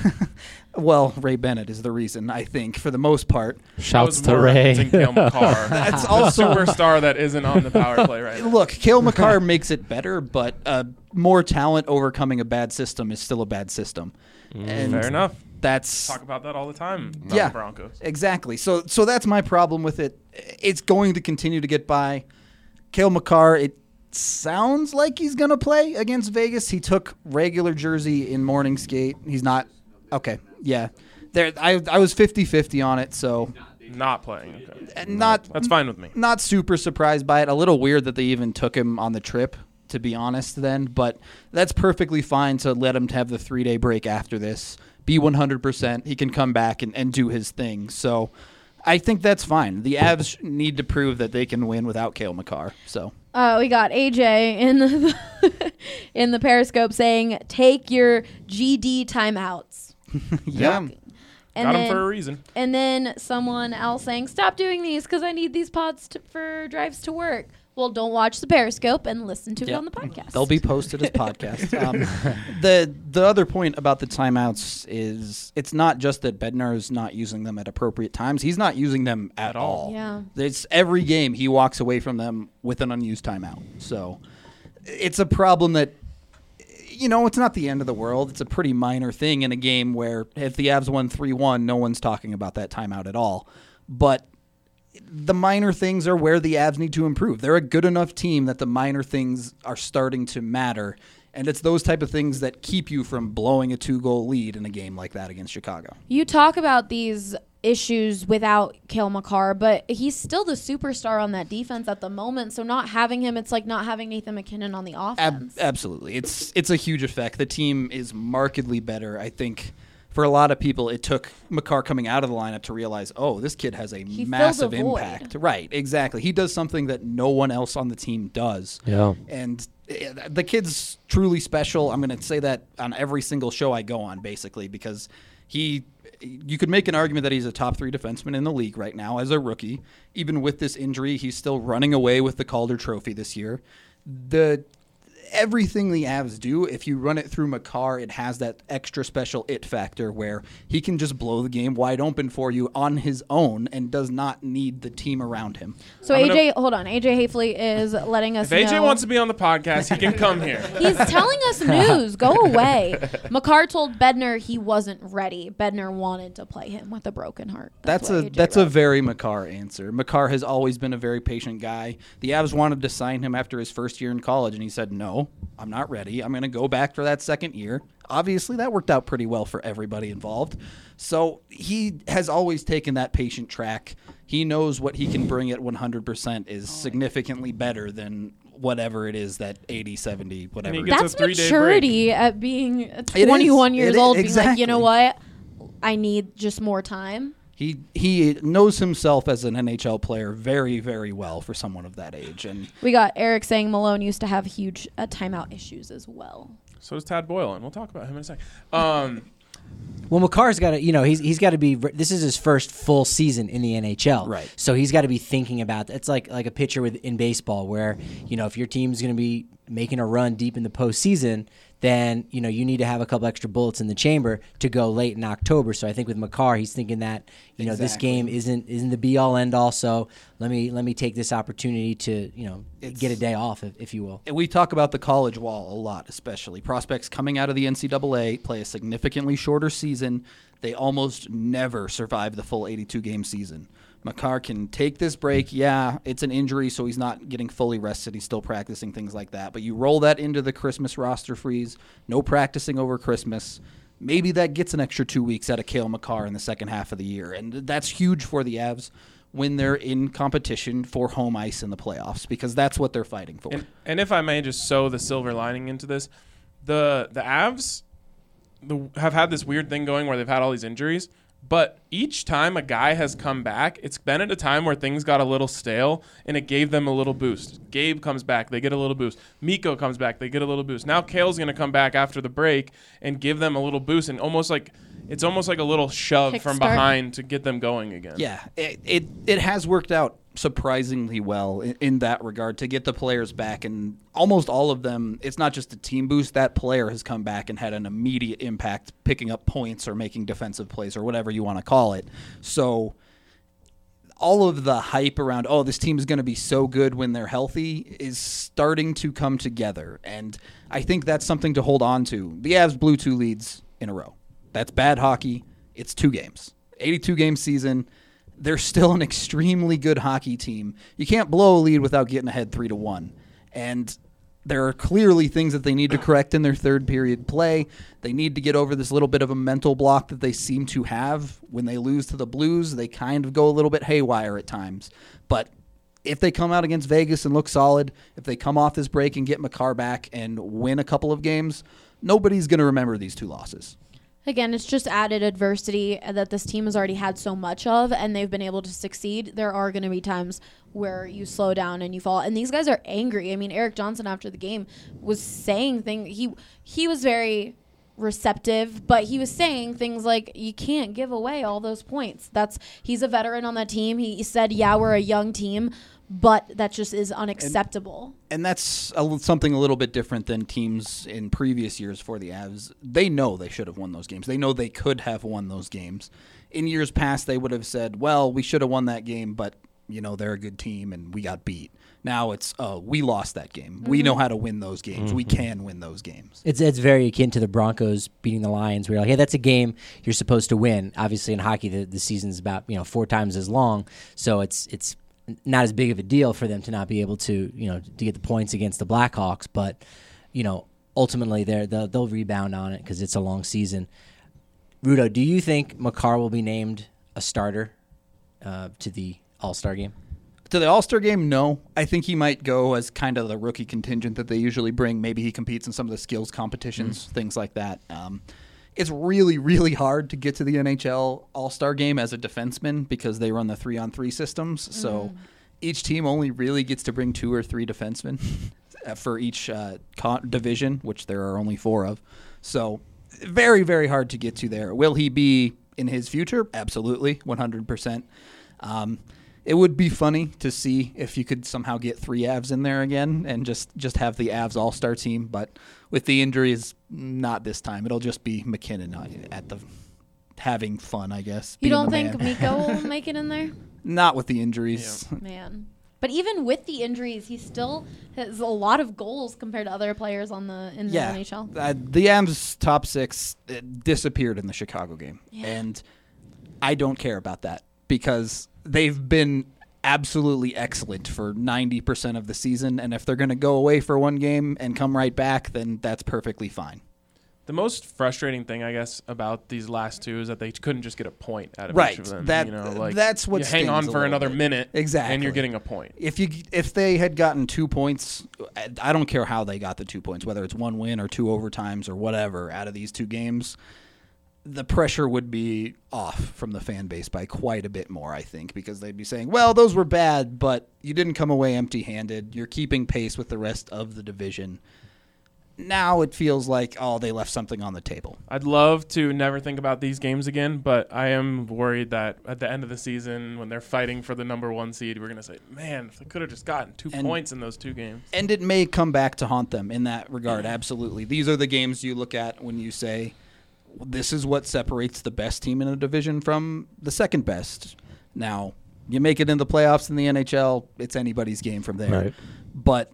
well, Ray Bennett is the reason, I think, for the most part. Shouts That to was more Ray. referencing Cale Makar. That's the also superstar that isn't on the power play right now. Look, Cale Makar makes it better, but uh, more talent overcoming a bad system is still a bad system. And Fair enough. That's Talk about that all the time. About yeah, the Broncos. exactly. So, so that's my problem with it. It's going to continue to get by. Cale Makar, it sounds like he's going to play against Vegas. He took regular jersey in morning skate. He's not. Okay, yeah. There, I I was fifty-fifty on it, so Not playing. Okay. and not That's fine with me. not super surprised by it. A little weird that they even took him on the trip, to be honest, then. But that's perfectly fine to let him have the three-day break after this. Be one hundred percent. He can come back and, and do his thing. So I think that's fine. The Avs need to prove that they can win without Cale Makar. So Uh, we got A J in the in the Periscope saying, "Take your G D timeouts." yeah. And Got then, him for a reason. And then someone else saying, "Stop doing these because I need these pods to, for drives to work." Well, don't watch the Periscope and listen to it Yep. on the podcast. They'll be posted as podcasts. Um, the the other point about the timeouts is it's not just that Bednar is not using them at appropriate times. He's not using them at, At all. all. Yeah. It's every game he walks away from them with an unused timeout. So it's a problem that, you know, it's not the end of the world. It's a pretty minor thing in a game where if the Avs won three one, no one's talking about that timeout at all. But the minor things are where the Avs need to improve. They're a good enough team that the minor things are starting to matter. And it's those type of things that keep you from blowing a two-goal lead in a game like that against Chicago. You talk about these issues without Cale Makar, but he's still the superstar on that defense at the moment. So not having him, it's like not having Nathan McKinnon on the Ab- offense. absolutely. It's it's a huge effect. The team is markedly better. I think for a lot of people, it took Makar coming out of the lineup to realize, oh, this kid has a He fills a massive void. impact. Right, exactly. He does something that no one else on the team does. Yeah. And eh, the kid's truly special. I'm going to say that on every single show I go on, basically, because he, you could make an argument that he's a top three defenseman in the league right now as a rookie. Even with this injury, he's still running away with the Calder Trophy this year. The everything the Avs do, if you run it through Makar, it has that extra special it factor where he can just blow the game wide open for you on his own and does not need the team around him. So I'm A J, gonna- hold on. A J Hafley is letting us If A J know. wants to be on the podcast, he can come here. He's telling us news. Go away. Makar told Bednar he wasn't ready. Bednar wanted to play him with a broken heart. That's, what a A J that's a wrote. very Makar answer. Makar has always been a very patient guy. The Avs wanted to sign him after his first year in college, and he said, no, I'm not ready. I'm going to go back for that second year. Obviously, that worked out pretty well for everybody involved. So he has always taken that patient track. He knows what he can bring at one hundred percent is significantly better than whatever it is that eighty, seventy, whatever. he it gets is. a That's three-day maturity at being is. twenty-one It years is. old, being like, you know Exactly. what? I need just more time. He he knows himself as an N H L player very, very well for someone of that age. And We got Eric saying Malone used to have huge uh, timeout issues as well. So does Tad Boyle, and we'll talk about him in a second. Um, Well, Makar's got to, you know, he's he's got to be. This is his first full season in the N H L, Right. So he's got to be thinking about that. It's like like a pitcher with in baseball, where you know if your team's going to be making a run deep in the postseason, then you know you need to have a couple extra bullets in the chamber to go late in October. So I think with Makar, he's thinking that you know this Exactly. game isn't isn't the be all end all. So let me let me take this opportunity to you know It's- get a day off, if, if you will. we talk about the college wall a lot, especially. Prospects coming out of the N C double A play a significantly shorter season. They almost never survive the full eighty-two game season. Makar can take this break. Yeah, it's an injury, so he's not getting fully rested. He's still practicing, things like that. But you roll that into the Christmas roster freeze, no practicing over Christmas. Maybe that gets an extra two weeks out of Cale Makar in the second half of the year. And that's huge for the Avs when they're in competition for home ice in the playoffs, because that's what they're fighting for. and, and if I may just sew the silver lining into this, the the Avs the, have had this weird thing going where they've had all these injuries, but each time a guy has come back, it's been at a time where things got a little stale, and it gave them a little boost. Gabe comes back, they get a little boost. Mikko comes back, they get a little boost. Now Cale's going to come back after the break and give them a little boost, and almost like it's almost like a little shove from Kickstart. behind to get them going again. Yeah, it, it it has worked out surprisingly well in, in that regard to get the players back, and almost all of them, it's not just a team boost. That player has come back and had an immediate impact, picking up points or making defensive plays or whatever you want to call it. So all of the hype around, oh, this team is going to be so good when they're healthy, is starting to come together, and I think that's something to hold on to. The Avs blew two leads in a row. That's bad hockey. It's two games. eighty-two game season. They're still an extremely good hockey team. You can't blow a lead without getting ahead three to one. And there are clearly things that they need to correct in their third period play. They need to get over this little bit of a mental block that they seem to have. When they lose to the Blues, they kind of go a little bit haywire at times. But if they come out against Vegas and look solid, if they come off this break and get Makar back and win a couple of games, nobody's going to remember these two losses. Again, it's just added adversity that this team has already had so much of, and they've been able to succeed. There are going to be times where you slow down and you fall, and these guys are angry. I mean, Eric Johnson after the game was saying things. He he was very receptive, but he was saying things like, you can't give away all those points. That's he's a veteran on that team. He said, yeah, we're a young team, but that just is unacceptable. And, and that's a, something a little bit different than teams in previous years for the Avs. They know they should have won those games. They know they could have won those games. In years past, they would have said, well, we should have won that game, but, you know, they're a good team and we got beat. Now it's, oh, we lost that game. Mm-hmm. We know how to win those games. Mm-hmm. We can win those games. It's it's very akin to the Broncos beating the Lions, where you're like, hey, that's a game you're supposed to win. Obviously, in hockey, the, the season's about, you know, four times as long, so it's it's not as big of a deal for them to not be able to, you know, to get the points against the Blackhawks. But, you know, ultimately, they're, they'll, they'll rebound on it because it's a long season. Rudo, do you think Makar will be named a starter uh, to the All-Star game? To the All-Star game, no. I think he might go as kind of the rookie contingent that they usually bring. Maybe he competes in some of the skills competitions, mm. things like that. Um, it's really, really hard to get to the N H L All-Star game as a defenseman because they run the three-on-three systems. Mm. So each team only really gets to bring two or three defensemen for each uh, con- division, which there are only four of. So very, very hard to get to there. Will he be in his future? Absolutely, one hundred percent. Um It would be funny to see if you could somehow get three Avs in there again and just, just have the Avs all-star team. But with the injuries, not this time. It'll just be McKinnon at the having fun, I guess. You don't think man. Mikko will make it in there? Not with the injuries. Yeah. Man. But even with the injuries, he still has a lot of goals compared to other players on the in the yeah. N H L. Uh, the Avs top six disappeared in the Chicago game. Yeah. And I don't care about that because they've been absolutely excellent for ninety percent of the season, and if they're going to go away for one game and come right back, then that's perfectly fine. The most frustrating thing, I guess, about these last two is that they couldn't just get a point out of right. each of them. That, you know, like that's what you hang on for another bit. minute, exactly, and you're getting a point. If you if they had gotten two points, I don't care how they got the two points, whether it's one win or two overtimes or whatever out of these two games, the pressure would be off from the fan base by quite a bit more, I think, because they'd be saying, well, those were bad, but you didn't come away empty-handed. You're keeping pace with the rest of the division. Now it feels like, oh, they left something on the table. I'd love to never think about these games again, but I am worried that at the end of the season, when they're fighting for the number one seed, we're going to say, man, if they could have just gotten two and, points in those two games. And it may come back to haunt them in that regard, absolutely. These are the games you look at when you say, this is what separates the best team in a division from the second best. Now, you make it in the playoffs in the N H L, it's anybody's game from there. Right. But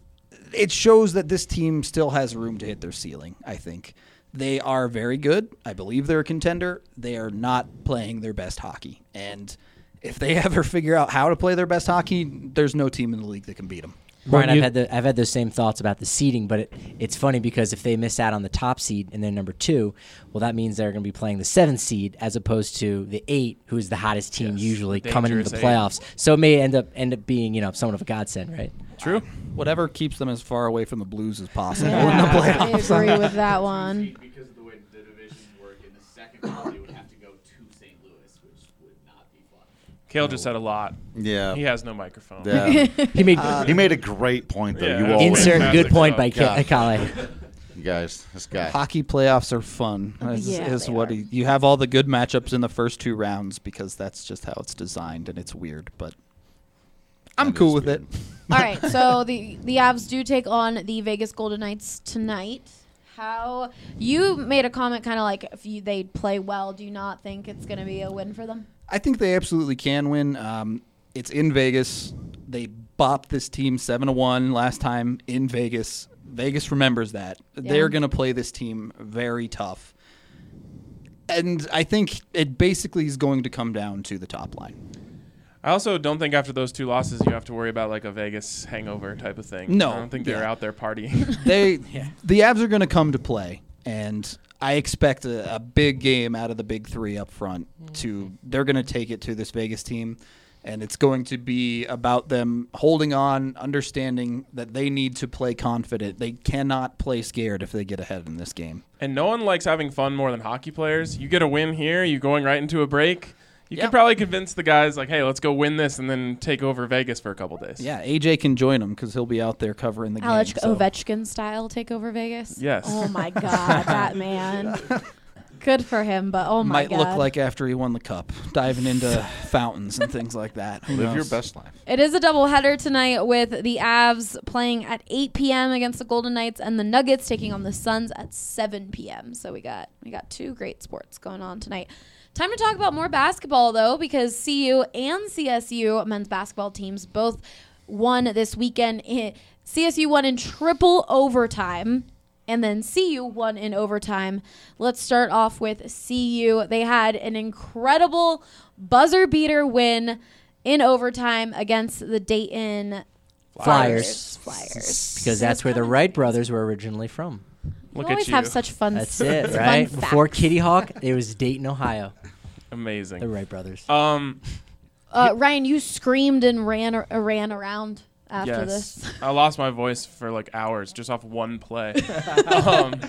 it shows that this team still has room to hit their ceiling, I think. They are very good. I believe they're a contender. They are not playing their best hockey. And if they ever figure out how to play their best hockey, there's no team in the league that can beat them. Brian, I've had the I've had those same thoughts about the seeding, but it, it's funny because if they miss out on the top seed and they're number two, well, that means they're going to be playing the seventh seed as opposed to the eight, who's the hottest team yes, usually coming into the eight. playoffs. So it may end up end up being, you know, somewhat of a godsend, right? True. Whatever keeps them as far away from the Blues as possible Yeah, in the playoffs. I agree with that one. Because of the way the divisions work in the second round, they would have to go to Saint Louis, which would not be fun. Kale just said a lot. Yeah. He has no microphone. Yeah. He made uh, he made a great point, though. Yeah, you always insert fantastic good point stuff. by God. Kale. You guys, this guy. Hockey playoffs are fun. Is, Yeah, is they what are. he, you have all the good matchups in the first two rounds because that's just how it's designed, and it's weird. But I'm That cool is with weird. it. All right, so the the Avs do take on the Vegas Golden Knights tonight. How you made a comment, kind of like if you, they play well, do you not think it's going to be a win for them? I think they absolutely can win. Um, it's in Vegas. They bopped this team seven to one last time in Vegas. Vegas remembers that. Yeah. They're going to play this team very tough. And I think it basically is going to come down to the top line. I also don't think after those two losses you have to worry about like a Vegas hangover type of thing. No. I don't think they're Yeah. out there partying. They, The Avs are going to come to play, and I expect a, a big game out of the big three up front. To They're going to take it to this Vegas team, and it's going to be about them holding on, understanding that they need to play confident. They cannot play scared if they get ahead in this game. And no one likes having fun more than hockey players. You get a win here, you're going right into a break. You Yeah. could probably convince the guys like, hey, let's go win this and then take over Vegas for a couple days. Yeah, A J can join him because he'll be out there covering the Alex game. so- Ovechkin style take over Vegas. Yes. Oh my God, that man. Good for him, but oh my Might God. look like after he won the cup, diving into fountains and things like that. Who Live your knows? best life. It is a doubleheader tonight with the Avs playing at eight p.m. against the Golden Knights and the Nuggets taking on the Suns at seven p.m. So we got we got two great sports going on tonight. Time to talk about more basketball, though, because C U and C S U men's basketball teams both won this weekend. C S U won in triple overtime, and then C U won in overtime. Let's start off with C U. They had an incredible buzzer beater win in overtime against the Dayton Flyers. Flyers. Because that's where the Wright brothers were originally from. Look you always at you. have such fun That's s- it, fun right? Before facts. Kitty Hawk, it was Dayton, Ohio. Amazing. The Wright brothers. Um, Uh, Ryan, you screamed and ran uh, ran around after yes. this. I lost my voice for like hours just off one play. um,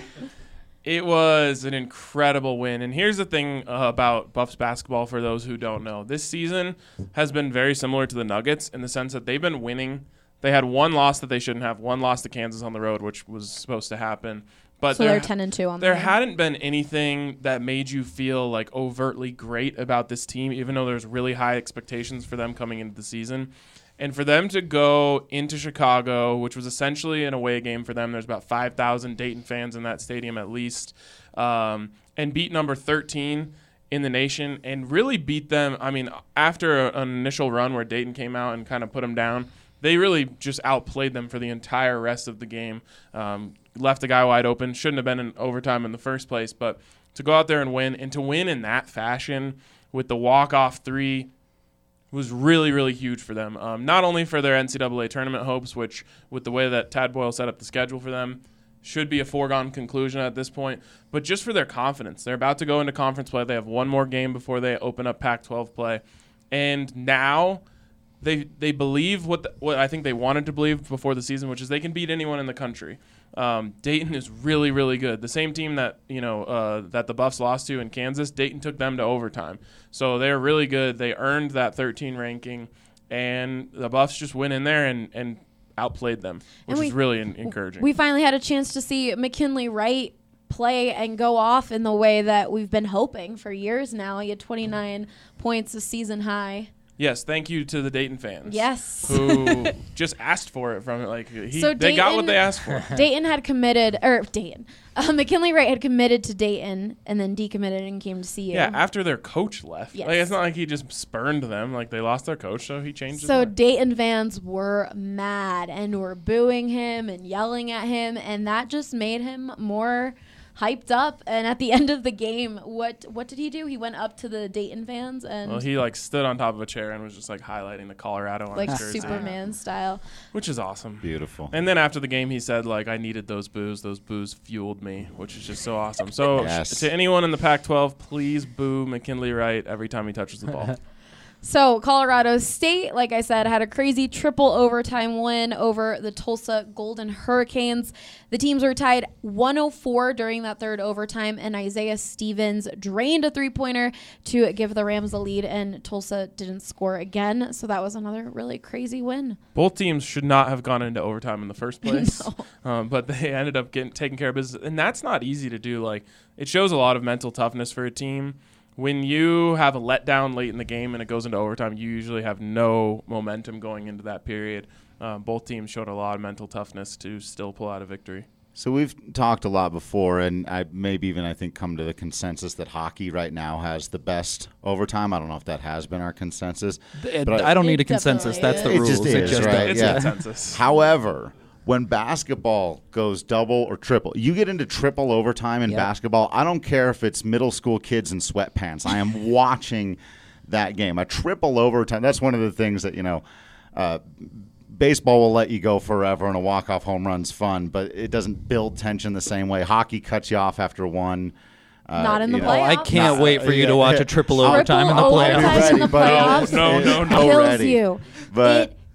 it was an incredible win. And here's the thing uh, about Buffs basketball for those who don't know. This season has been very similar to the Nuggets in the sense that they've been winning. They had one loss that they shouldn't have, one loss to Kansas on the road, which was supposed to happen. But So there- they're ten and two on the There road. hadn't been anything that made you feel like overtly great about this team, even though there's really high expectations for them coming into the season. And for them to go into Chicago, which was essentially an away game for them, there's about five thousand Dayton fans in that stadium at least, um, and beat number thirteen in the nation and really beat them. I mean, after a, an initial run where Dayton came out and kind of put them down, they really just outplayed them for the entire rest of the game. Um, left the guy wide open. Shouldn't have been in overtime in the first place. But to go out there and win, and to win in that fashion with the walk-off three was really, really huge for them. Um, not only for their N C double A tournament hopes, which with the way that Tad Boyle set up the schedule for them, should be a foregone conclusion at this point, but just for their confidence. They're about to go into conference play. They have one more game before they open up Pac twelve play. And now they they believe what the, what I think they wanted to believe before the season, which is they can beat anyone in the country. Um, Dayton is really, really good. The same team that you know uh, that the Buffs lost to in Kansas, Dayton took them to overtime. So they're really good. They earned that thirteen ranking, and the Buffs just went in there and, and outplayed them, which we- is really en- encouraging. We finally had a chance to see McKinley Wright play and go off in the way that we've been hoping for years now. He had twenty-nine points, a season high. Yes, thank you to the Dayton fans. Yes. Who just asked for it from it. Like he, So they got what Dayton- they asked for. Dayton had committed, or Dayton, uh, McKinley Wright had committed to Dayton and then decommitted and came to see you. Yeah, after their coach left. Yes. Like it's not like he just spurned them. Like they lost their coach, so he changed. So his mind. Dayton fans were mad and were booing him and yelling at him, and that just made him more hyped up. And at the end of the game, what what did he do? He went up to the Dayton fans and Well, he like stood on top of a chair and was just like highlighting the Colorado on like his jersey, Superman style. which is awesome. Beautiful. And then after the game, he said like, "I needed those boos. Those boos fueled me," which is just so awesome. So Yes. to anyone in the Pac twelve, please boo McKinley Wright every time he touches the ball. So Colorado State, like I said, had a crazy triple overtime win over the Tulsa Golden Hurricanes. The teams were tied one oh four during that third overtime, and Isaiah Stevens drained a three-pointer to give the Rams the lead, and Tulsa didn't score again. So that was another really crazy win. Both teams should not have gone into overtime in the first place, No. um, but they ended up getting taking care of business, and that's not easy to do. Like it shows a lot of mental toughness for a team. When you have a letdown late in the game and it goes into overtime, you usually have no momentum going into that period. Uh, both teams showed a lot of mental toughness to still pull out a victory. So we've talked a lot before, and I maybe even I think come to the consensus that hockey right now has the best overtime. I don't know if that has been our consensus. It- but I don't need a It consensus. That's the It rules. just It is, just right? It's Yeah. a consensus. However, when basketball goes double or triple, you get into triple overtime in Yep. basketball. I don't care if it's middle school kids in sweatpants. I am watching that game. A triple overtime. That's one of the things that, you know, uh, baseball will let you go forever, and a walk-off home run's fun, but it doesn't build tension the same way. Hockey cuts you off after one. Uh, Not in the you know, Oh, I playoffs. can't Nah, wait for you yeah, to watch yeah. a triple Triple overtime in the overtime playoffs. in the Ready, buddy. playoffs No, no, no. kills Already. you. But it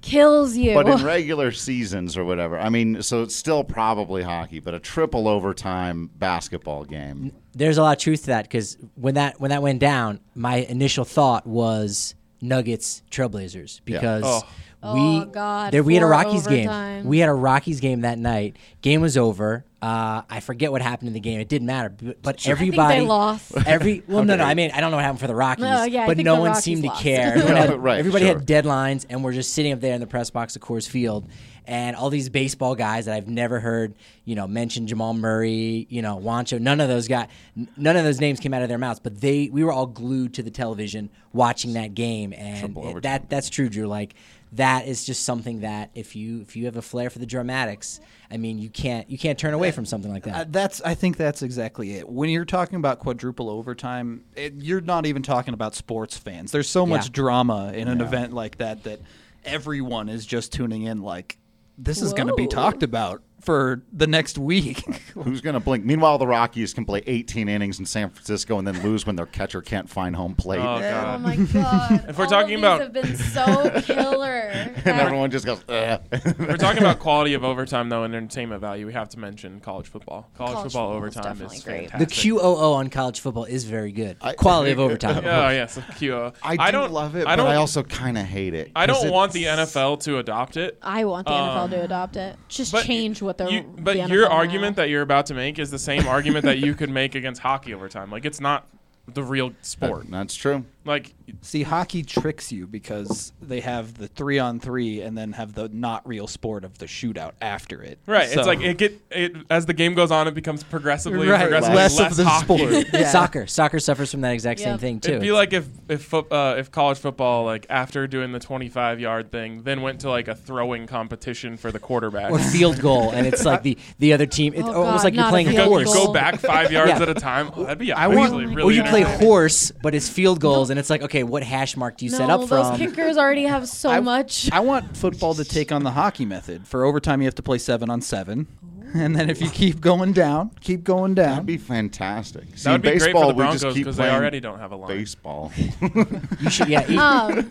kills you. But in regular seasons or whatever, I mean, so it's still probably hockey, but a triple overtime basketball game. There's a lot of truth to that because when that when that went down, my initial thought was Nuggets Trailblazers because Oh. we Oh, God, there we had a four Rockies overtime. game. We had a Rockies game that night. Game was over. Uh, I forget what happened in the game. It didn't matter. But, but I think everybody they lost. Every well, no, no. Okay. I mean, I don't know what happened for the Rockies. No, yeah, I but think no the one Rockies seemed lost. to care. Everyone had, Right, everybody sure. had deadlines, and we're just sitting up there in the press box of Coors Field, and all these baseball guys that I've never heard, you know, mention Jamal Murray, you know, Wancho. None of those guys, n- none of those names came out of their mouths. But they, we were all glued to the television watching that game, and Triple it- overtime. that that's true, Drew. Like that is just something that if you if you have a flair for the dramatics, I mean, you can't you can't turn away from something like Uh, that. that's. I think that's exactly it. When you're talking about quadruple overtime, it, you're not even talking about sports fans. There's so much Yeah. drama in an event like that that everyone is just tuning in. Like, this is going to be Whoa. talked about for the next week. Who's going to blink? Meanwhile, the Rockies can play eighteen innings in San Francisco and then lose when their catcher can't find home plate. Oh, Oh God. my god! If we're All talking of these about- have been so killer. And everyone just goes, Ugh. We're talking about quality of overtime, though, and entertainment value. We have to mention college football. College, College football football is overtime is definitely great. fantastic. The Q O O on college football is very good. I- Quality of overtime. Oh, yes, the Q O. I do don't love it, I but don't, I also kind of hate it. I 'cause don't want the it's- N F L to adopt it. I want the N F L Um, to adopt it. Just But change what they're. you, but the N F L your now. argument that you're about to make is the same argument that you could make against hockey overtime. Like, it's not the real sport. That's true. Like, See, hockey tricks you because they have the three on three and then have the not real sport of the shootout after it. right? So- It's like it get it as the game goes on, it becomes progressively, Right, progressively less less, of the hockey. sport. Yeah. Soccer, soccer suffers from that exact same Yep. thing too. It'd be like if if fo- uh, if college football, like after doing the twenty-five yard thing, then went to like a throwing competition for the quarterback. or field goal, and it's like the the other team. It's Oh, almost God, like you're not a playing you field go, you horse. go back five yards Yeah. at a time. Oh, that'd be I actually want- really or you play entertaining. horse, but it's field goals, and it's like, okay, what hash mark do you no, set up those from? kickers already have so I- much. I want football to take on the hockey method. For overtime, you have to play seven on seven. And then if you keep going down, keep going down. That'd be fantastic. See, That would be great baseball, for the we Broncos just keep because they playing already don't have a line. baseball. You should, yeah. you- um,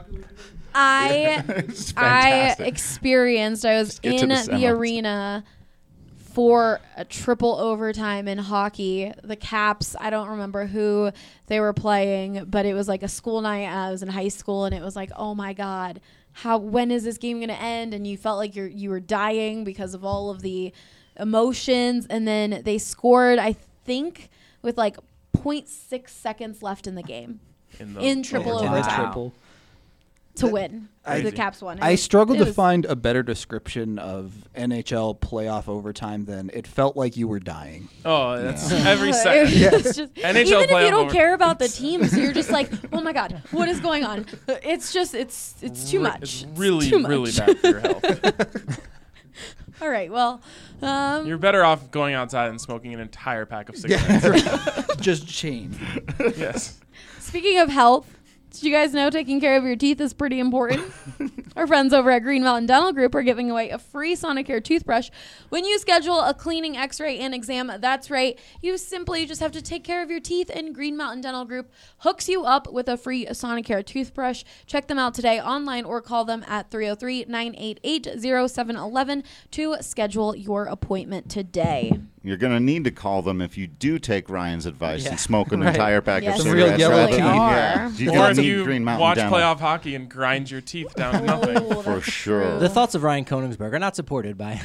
I It's I fantastic. experienced. I was get to in the the, semis. arena for a triple overtime in hockey. The Caps. I don't remember who they were playing, but it was like a school night. I was in high school, and it was like, oh my god, how when is this game going to end? And you felt like you're you were dying because of all of the emotions. And then they scored, I think, with like zero point six seconds left in the game In, the in triple overtime. overtime Wow. Triple. to win. I- the Caps won. It I was- struggled it to was- find a better description of N H L playoff overtime than it felt like you were dying. Oh, that's every It second. was just- N H L even if you playoff don't over- care about the teams, you're just like, oh my god, what is going on? It's just, it's, it's too Re- much. It's It's really, too much. really bad for your health. All right, well, um, You're better off going outside and smoking an entire pack of cigarettes. Just chain. Yes. speaking of health, did you guys know taking care of your teeth is pretty important? Our friends over at Green Mountain Dental Group are giving away a free Sonicare toothbrush when you schedule a cleaning, x-ray, and exam. That's right. You simply just have to take care of your teeth, and Green Mountain Dental Group hooks you up with a free Sonicare toothbrush. Check them out today online or call them at three oh three, nine eight eight, oh seven one one to schedule your appointment today. You're going to need to call them if you do take Ryan's advice Yeah. and smoke an Right. entire pack Yes, of Some real cigarettes. yellow rather teeth. than- Are. yeah. You're Or gonna if need you Green Mountain watch Dental. playoff hockey and grind your teeth down to nothing. Oh, For that's sure. true. the thoughts of Ryan Koenigsberg are not supported by.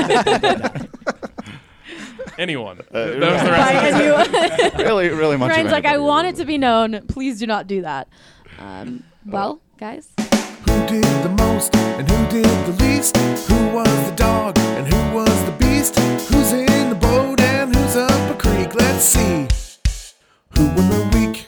Anyone. Uh, Th- that was the rest By of the anyone. really, really much. Ryan's of like, I anybody, want really. it to be known. Please do not do that. Um, well, guys. Who did the most and who did the least? Who was the dog and who was the beast? Who's in the boat and who's up a creek? Let's see. Who won the week?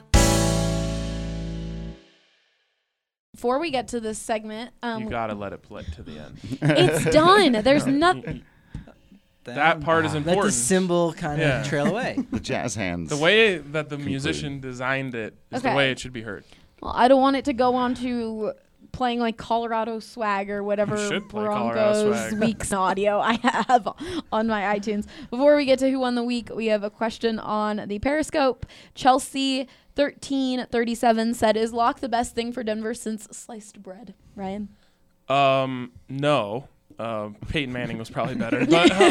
Before we get to this segment, um, You gotta let it play to the end. it's done. There's You- nothing. you- That part is Let the important. symbol kind of Yeah. trail away. The jazz hands. The way that the musician designed it is Okay. the way it should be heard. Well, I don't want it to go on to playing like Colorado swag or whatever You should play Colorado Broncos swag. week's audio I have on my iTunes. Before we get to who won the week, we have a question on the Periscope. Chelsea thirteen thirty-seven said, "Is Locke the best thing for Denver since sliced bread?" Ryan. Um, no. Uh, Peyton Manning was probably better,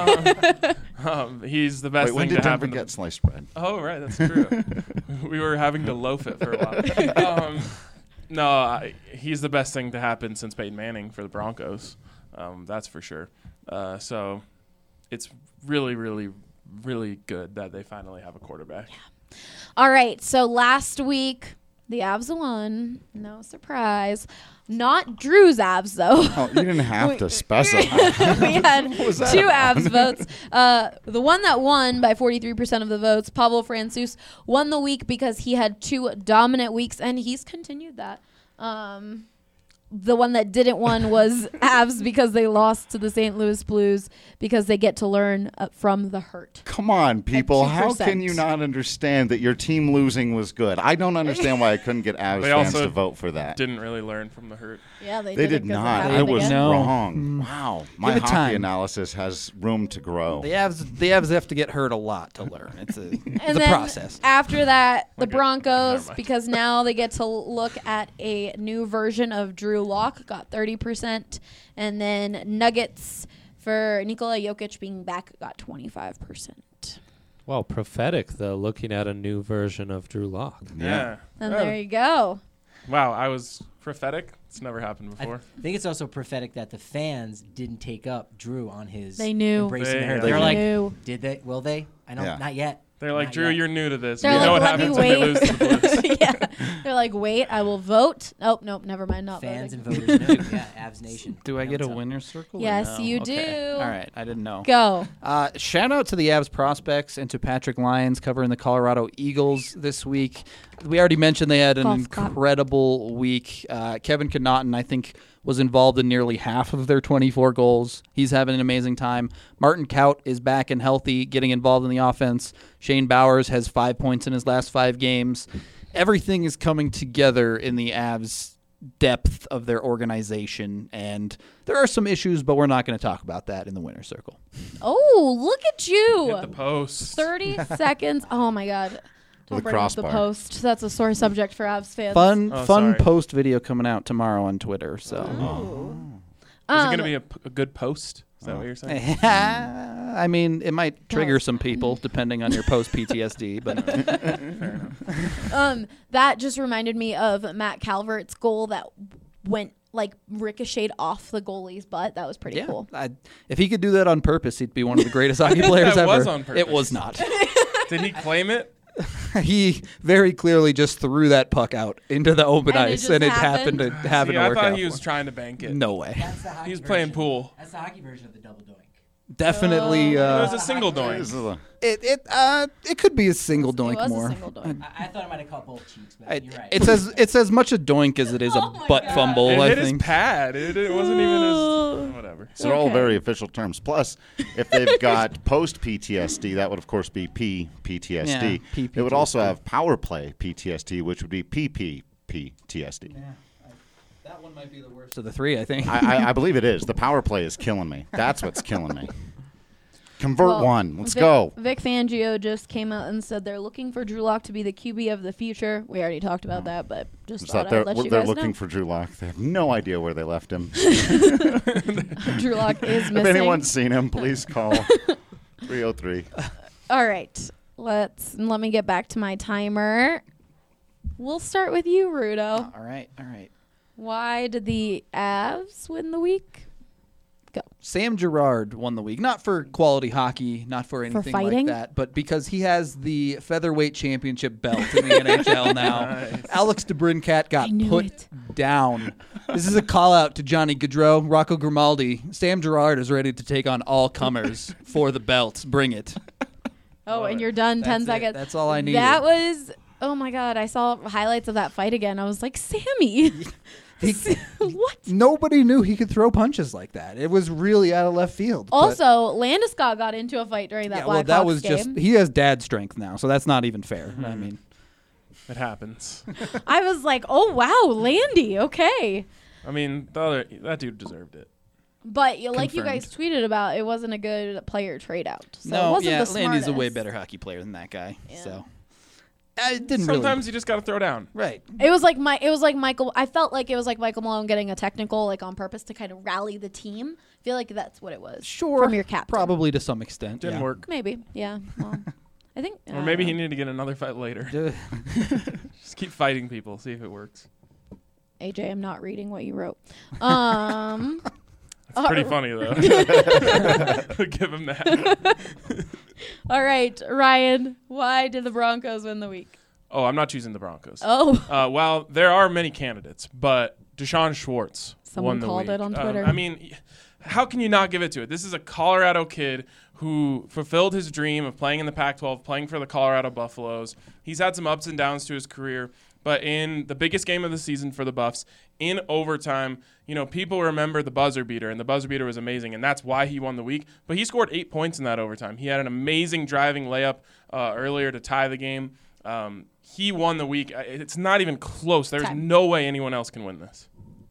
but um, um, he's the best Wait, when thing did to Denver happen. get sliced bread? Oh, right, that's true. We were having to loaf it for a while. Um, no, I, he's the best thing to happen since Peyton Manning for the Broncos. Um, that's for sure. Uh, so it's really, really, really good that they finally have a quarterback. Yeah. All right, so last week the Avs won. No surprise. Not Drew's Avs, though. Oh, you didn't have to specify. We had two Avs votes. Uh, the one that won by forty-three percent of the votes, Pablo Francouz, won the week because he had two dominant weeks, and he's continued that. Um, the one that didn't win was Avs because they lost to the Saint Louis Blues because they get to learn uh, from the hurt. Come on, people. How two percent. can you not understand that your team losing was good? I don't understand why I couldn't get Avs They fans also to vote for that. Didn't really learn from the hurt. Yeah, they, They did, did it 'cause it not. happened I was again. No. wrong. Wow. My Give it hockey time. analysis has room to grow. The Avs, the Avs have to get hurt a lot to learn. It's a, it's And a then process. after that, the Okay. Broncos, Never mind. because now they get to look at a new version of Drew Lock, got thirty percent. And then Nuggets for Nikola Jokic being back got twenty-five percent. Well, prophetic, though, looking at a new version of Drew Lock. Yeah. And Oh. there you go. Wow, I was prophetic. It's never happened I before. think it's also prophetic that the fans didn't take up Drew on his They knew. embracing They- the hurt. they They were like, knew. did they? Will they? I know, Yeah. not yet. They're like, Not Drew, yet." you're new to this. They're you know like, what let me happens when they wait. lose to the Blues. Yeah. They're like, wait, I will vote. Nope, nope, never mind. Not Fans voting. and voters know. Yeah, Avs Nation. Do I Know get a what's up. winner's circle? or Yes, no? you Okay. do. All right. I didn't know. Go. Uh, shout out to the Avs prospects and to Patrick Lyons covering the Colorado Eagles this week. We already mentioned they had an Golf clap. incredible week. Uh, Kevin Connaughton, I think, was involved in nearly half of their twenty-four goals. He's having an amazing time. Martin Kaut is back and healthy, getting involved in the offense. Shane Bowers has five points in his last five games. Everything is coming together in the Avs' depth of their organization, and there are some issues, but we're not going to talk about that in the winner's circle. Oh, look at you. Hit the post. thirty seconds. Oh, my God. Don't With a bring up the crossbar. post. That's a sore subject for Avs fans. Fun, Oh, fun sorry. post video coming out tomorrow on Twitter. So, Is it Um, going to be a, p- a good post? Is that what you're saying? I mean, it might trigger some people depending on your post P T S D, but Um, that just reminded me of Matt Calvert's goal that went like ricocheted off the goalie's butt. That was pretty yeah, cool. I, if he could do that on purpose, he'd be one of the greatest hockey players That ever. was on It purpose. was not. Did he claim it? He very clearly just threw that puck out into the open And it ice, just and it happened? happened to happen See, to I work thought out. he was for trying to bank him. it. No way. That's the hockey He was playing version. pool. That's the hockey version of the double doink. Definitely, It uh, was a single This doink. is a- it it uh it could be a single It doink was more. a single doink. I, I thought it might have caught both cheeks, but I- you're right. It's as it's as much a doink as it is Oh a my butt God. fumble. It I hit his think. pad. It, it wasn't even his. Whatever. These are all Okay. very official terms. Plus, if they've got post P T S D, that would of course be P P T S D. Yeah, P P T S D. It would also have power play P T S D, which would be P P P T S D. That one might be the worst of the three. I think. I, I, I believe it is. The power play is killing me. That's what's killing me. Convert Well, one. Let's Vic, go. Vic Fangio just came out and said they're looking for Drew Lock to be the Q B of the future. We already talked about that, but just It's thought that they're I'd let you they're guys looking know. for Drew Lock. They have no idea where they left him. Drew Lock is If missing. anyone's seen him, please call three oh three. All right, let's let me get back to my timer. We'll start with you, Rudo. all right, all right. Why did the Avs win the week? Go. Sam Girard won the week, not for quality hockey, not for anything like fighting? that, but because he has the featherweight championship belt in the N H L now. Nice. Alex DeBrincat got I knew put it. down. This is a call out to Johnny Gaudreau, Rocco Grimaldi. Sam Girard is ready to take on all comers for the belt. Bring it. Oh, and you're done. Ten That's it. seconds. That's all I needed. That was. Oh my God! I saw highlights of that fight again. I was like, Sammy. He- what? Nobody knew he could throw punches like that. It was really out of left field. but- Also, Landeskog got into a fight during that yeah, well, Blackhawks that was game. just he has dad strength now, so that's not even fair. I mean, It happens. I was like, oh wow, Landy, okay. I mean, the other that dude deserved it. But you, like you guys Confirmed. tweeted about, it wasn't a good player trade out. So it no, wasn't yeah, the Landy's a way smartest. better hockey player than that guy. Yeah. So it didn't Sometimes really. you just got to throw down. Right. It was like my. It was like Michael. I felt like it was like Michael Malone getting a technical, like on purpose to kind of rally the team. I feel like that's what it was. Sure. From your captain. Probably to some extent. Didn't yeah. work. Maybe. Yeah. Well, I think. Or uh, maybe he needed to get another fight later. Just keep fighting people. See if it works. A J, I'm not reading what you wrote. Um. It's pretty uh, funny, though. Give him that. All right, Ryan. Why did the Broncos win the week? Oh, I'm not choosing the Broncos. Oh. Uh, well, there are many candidates, but Deshaun Schwartz Someone won the called week. it on Um, Twitter. I mean, how can you not give it to it? This is a Colorado kid who fulfilled his dream of playing in the Pac twelve, playing for the Colorado Buffaloes. He's had some ups and downs to his career, but in the biggest game of the season for the Buffs, in overtime, you know, people remember the buzzer beater, and the buzzer beater was amazing, and that's why he won the week. But he scored eight points in that overtime. He had an amazing driving layup uh, earlier to tie the game. Um, he won the week. It's not even close. There's Time. no way anyone else can win this.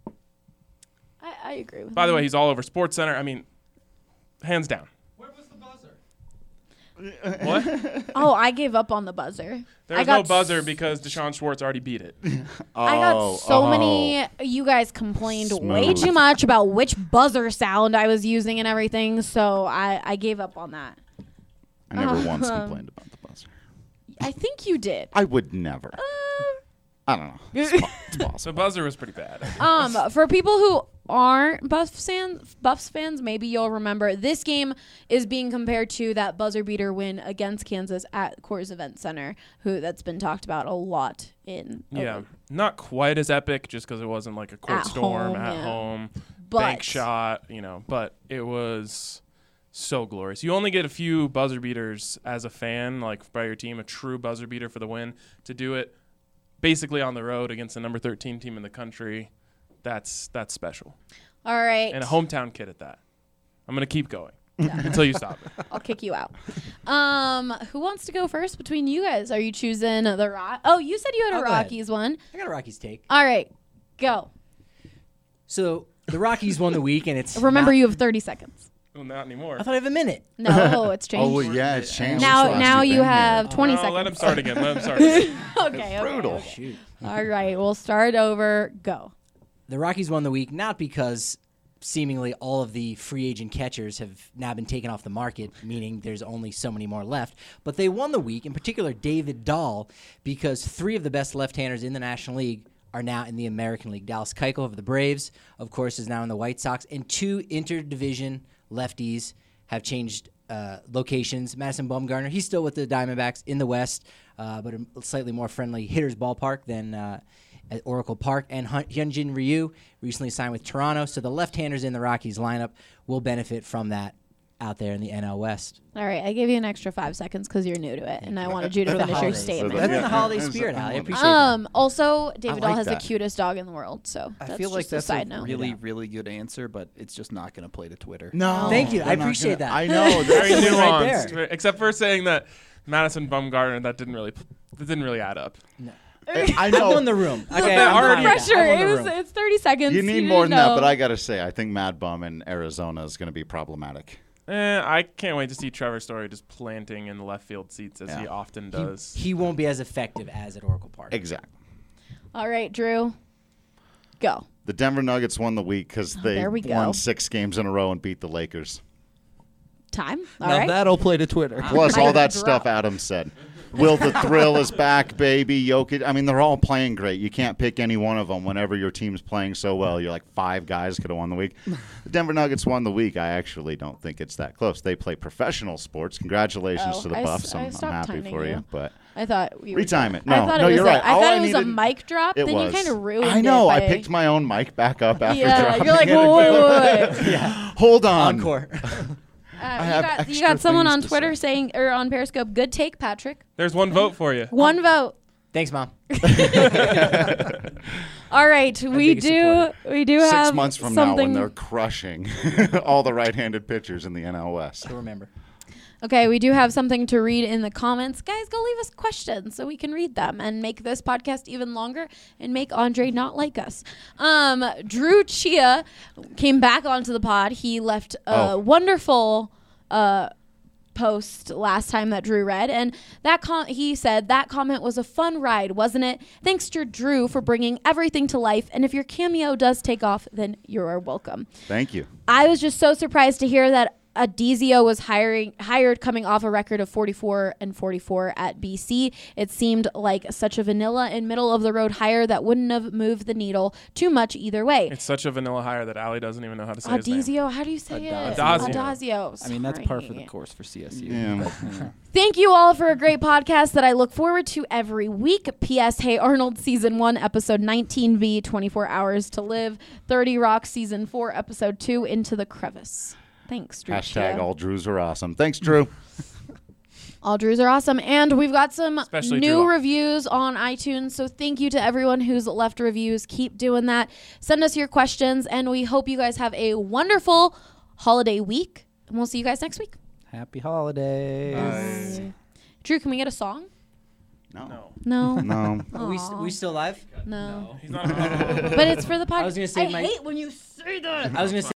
I, I agree with By the you. way, he's all over SportsCenter. I mean, hands down. Where was the buzzer? What? Oh, I gave up on the buzzer. There I was no got buzzer s- because Deshaun Schwartz already beat it. I got Oh, so oh. many. You guys complained way Smooth. too much about which buzzer sound I was using and everything, so I, I gave up on that. I never Uh, once um, complained about the buzzer. I think you did. I would never. Uh, I don't know. It's, po- it's possible. So buzzer was pretty bad. Um, for people who aren't Buffs fans, Buffs fans, maybe you'll remember this game is being compared to that buzzer beater win against Kansas at Coors Event Center, who that's been talked about a lot in. Yeah, not quite as epic just because it wasn't like a court At storm home, at yeah. home, But- bank shot, you know, but it was so glorious. You only get a few buzzer beaters as a fan, like by your team, a true buzzer beater for the win. To do it basically on the road against the number thirteen team in the country, that's that's special. All right. And a hometown kid at that. I'm going to keep going until you stop it. I'll kick you out. Um, who wants to go first between you guys? Are you choosing the Rock? Oh, you said you had a I'll go ahead. Rockies one. I got a Rockies take. All right, go. So the Rockies won the week, and it's Remember, not- you have thirty seconds. Well, not anymore. I thought I have a minute. No, it's changed. Oh, well, yeah, it's changed. Now- since last now you've you been here. have twenty Oh, seconds. let him start again. Let him start again. okay, okay, brutal. okay. Shoot. All right, we'll start over. Go. The Rockies won the week not because seemingly all of the free agent catchers have now been taken off the market, meaning there's only so many more left, but they won the week, in particular David Dahl, because three of the best left-handers in the National League are now in the American League. Dallas Keuchel of the Braves, of course, is now in the White Sox, and two interdivision lefties have changed uh, locations. Madison Bumgarner, he's still with the Diamondbacks in the West, uh, but a slightly more friendly hitter's ballpark than uh, at Oracle Park. And Hun- Hyunjin Ryu recently signed with Toronto, so the left-handers in the Rockies lineup will benefit from that out there in the N L West. All right, I gave you an extra five seconds because you're new to it, and I wanted you to For the finish your holidays. statement. So That's in Yeah. the holiday Yeah. spirit, Yeah. Ali. I appreciate Um. Also, David I Dahl like has that. the cutest dog in the world, so I that's feel like just that's a side a note. really, Yeah. really good answer, but it's just not going to play to Twitter. No. Thank you. I they're not appreciate gonna- that. I know. Very that's- Right nuanced, there. except for saying that Madison Bumgarner, that didn't really, that didn't really add up. I I know. won the room. Okay, they're I'm already- fine with that. Pressure. I won the It was. room. It's thirty seconds. You need didn't more than know. that, but I got to say, I think Mad Bum in Arizona is going to be problematic. Eh, I can't wait to see Trevor Story just planting in the left field seats as Yeah. he often He, does. he won't be as effective as at Oracle Park. Exactly. All right, Drew. Go. The Denver Nuggets won the week because they Oh, there we go. won six games in a row and beat the Lakers. Time. All now right. that'll play to Twitter. Plus I all got that a stuff drop. Adam said. Will the Thrill is back, baby. Jokic. I mean, they're all playing great. You can't pick any one of them whenever your team's playing so well. You're like five guys could have won the week. The Denver Nuggets won the week. I actually don't think it's that close. They play professional sports. Congratulations Oh, to the I s- Buffs. I I'm, I'm stopped happy timing for you. you. But I thought we were Retime done. it. No, I thought no, it was you're a, right. I All thought I it was a needed- mic drop. it then was. you kind of ruined it. I know. I by- picked my own mic back up after Yeah, dropping you're like, it. whoa, wait, wait, wait. Yeah. Hold on. Encore. Uh, I you have got, you extra got someone things on to Twitter say. saying, or on Periscope, good take, Patrick. There's one vote for you. One vote. Thanks, Mom. All right, we biggest do. supporter. We do have Six months from now something. when they're crushing all the right-handed pitchers in the N L West. Still remember. Okay, we do have something to read in the comments. Guys, go leave us questions so we can read them and make this podcast even longer and make Andre not like us. Um, Drew Chia came back onto the pod. He left a Oh. wonderful uh, post last time that Drew read, and that com- he said that comment was a fun ride, wasn't it? Thanks to Drew for bringing everything to life, and if your cameo does take off, then you are welcome. Thank you. I was just so surprised to hear that Adizio was hiring hired coming off a record of forty-four and forty-four at B C. It seemed like such a vanilla and middle of the road hire that wouldn't have moved the needle too much either way. It's such a vanilla hire that Allie doesn't even know how to say his name. Adizio, how do you say it? Adazio. Adazio. I mean, that's par for the Sorry. course for C S U. Yeah. Thank you all for a great podcast that I look forward to every week. P S. Hey Arnold Season one, Episode nineteen V, twenty-four hours to Live. thirty Rock Season four, Episode two, Into the Crevice. Thanks, Drew. Hashtag all Drews are awesome. Thanks, Drew. All Drews are awesome. And we've got some Especially new Drew. reviews on iTunes. So thank you to everyone who's left reviews. Keep doing that. Send us your questions. And we hope you guys have a wonderful holiday week. And we'll see you guys next week. Happy holidays. Drew, can we get a song? No. No. No. Are we, Aw. we still live? No. He's not a But it's for the podcast. I was gonna say I my- hate when you say that. I was gonna say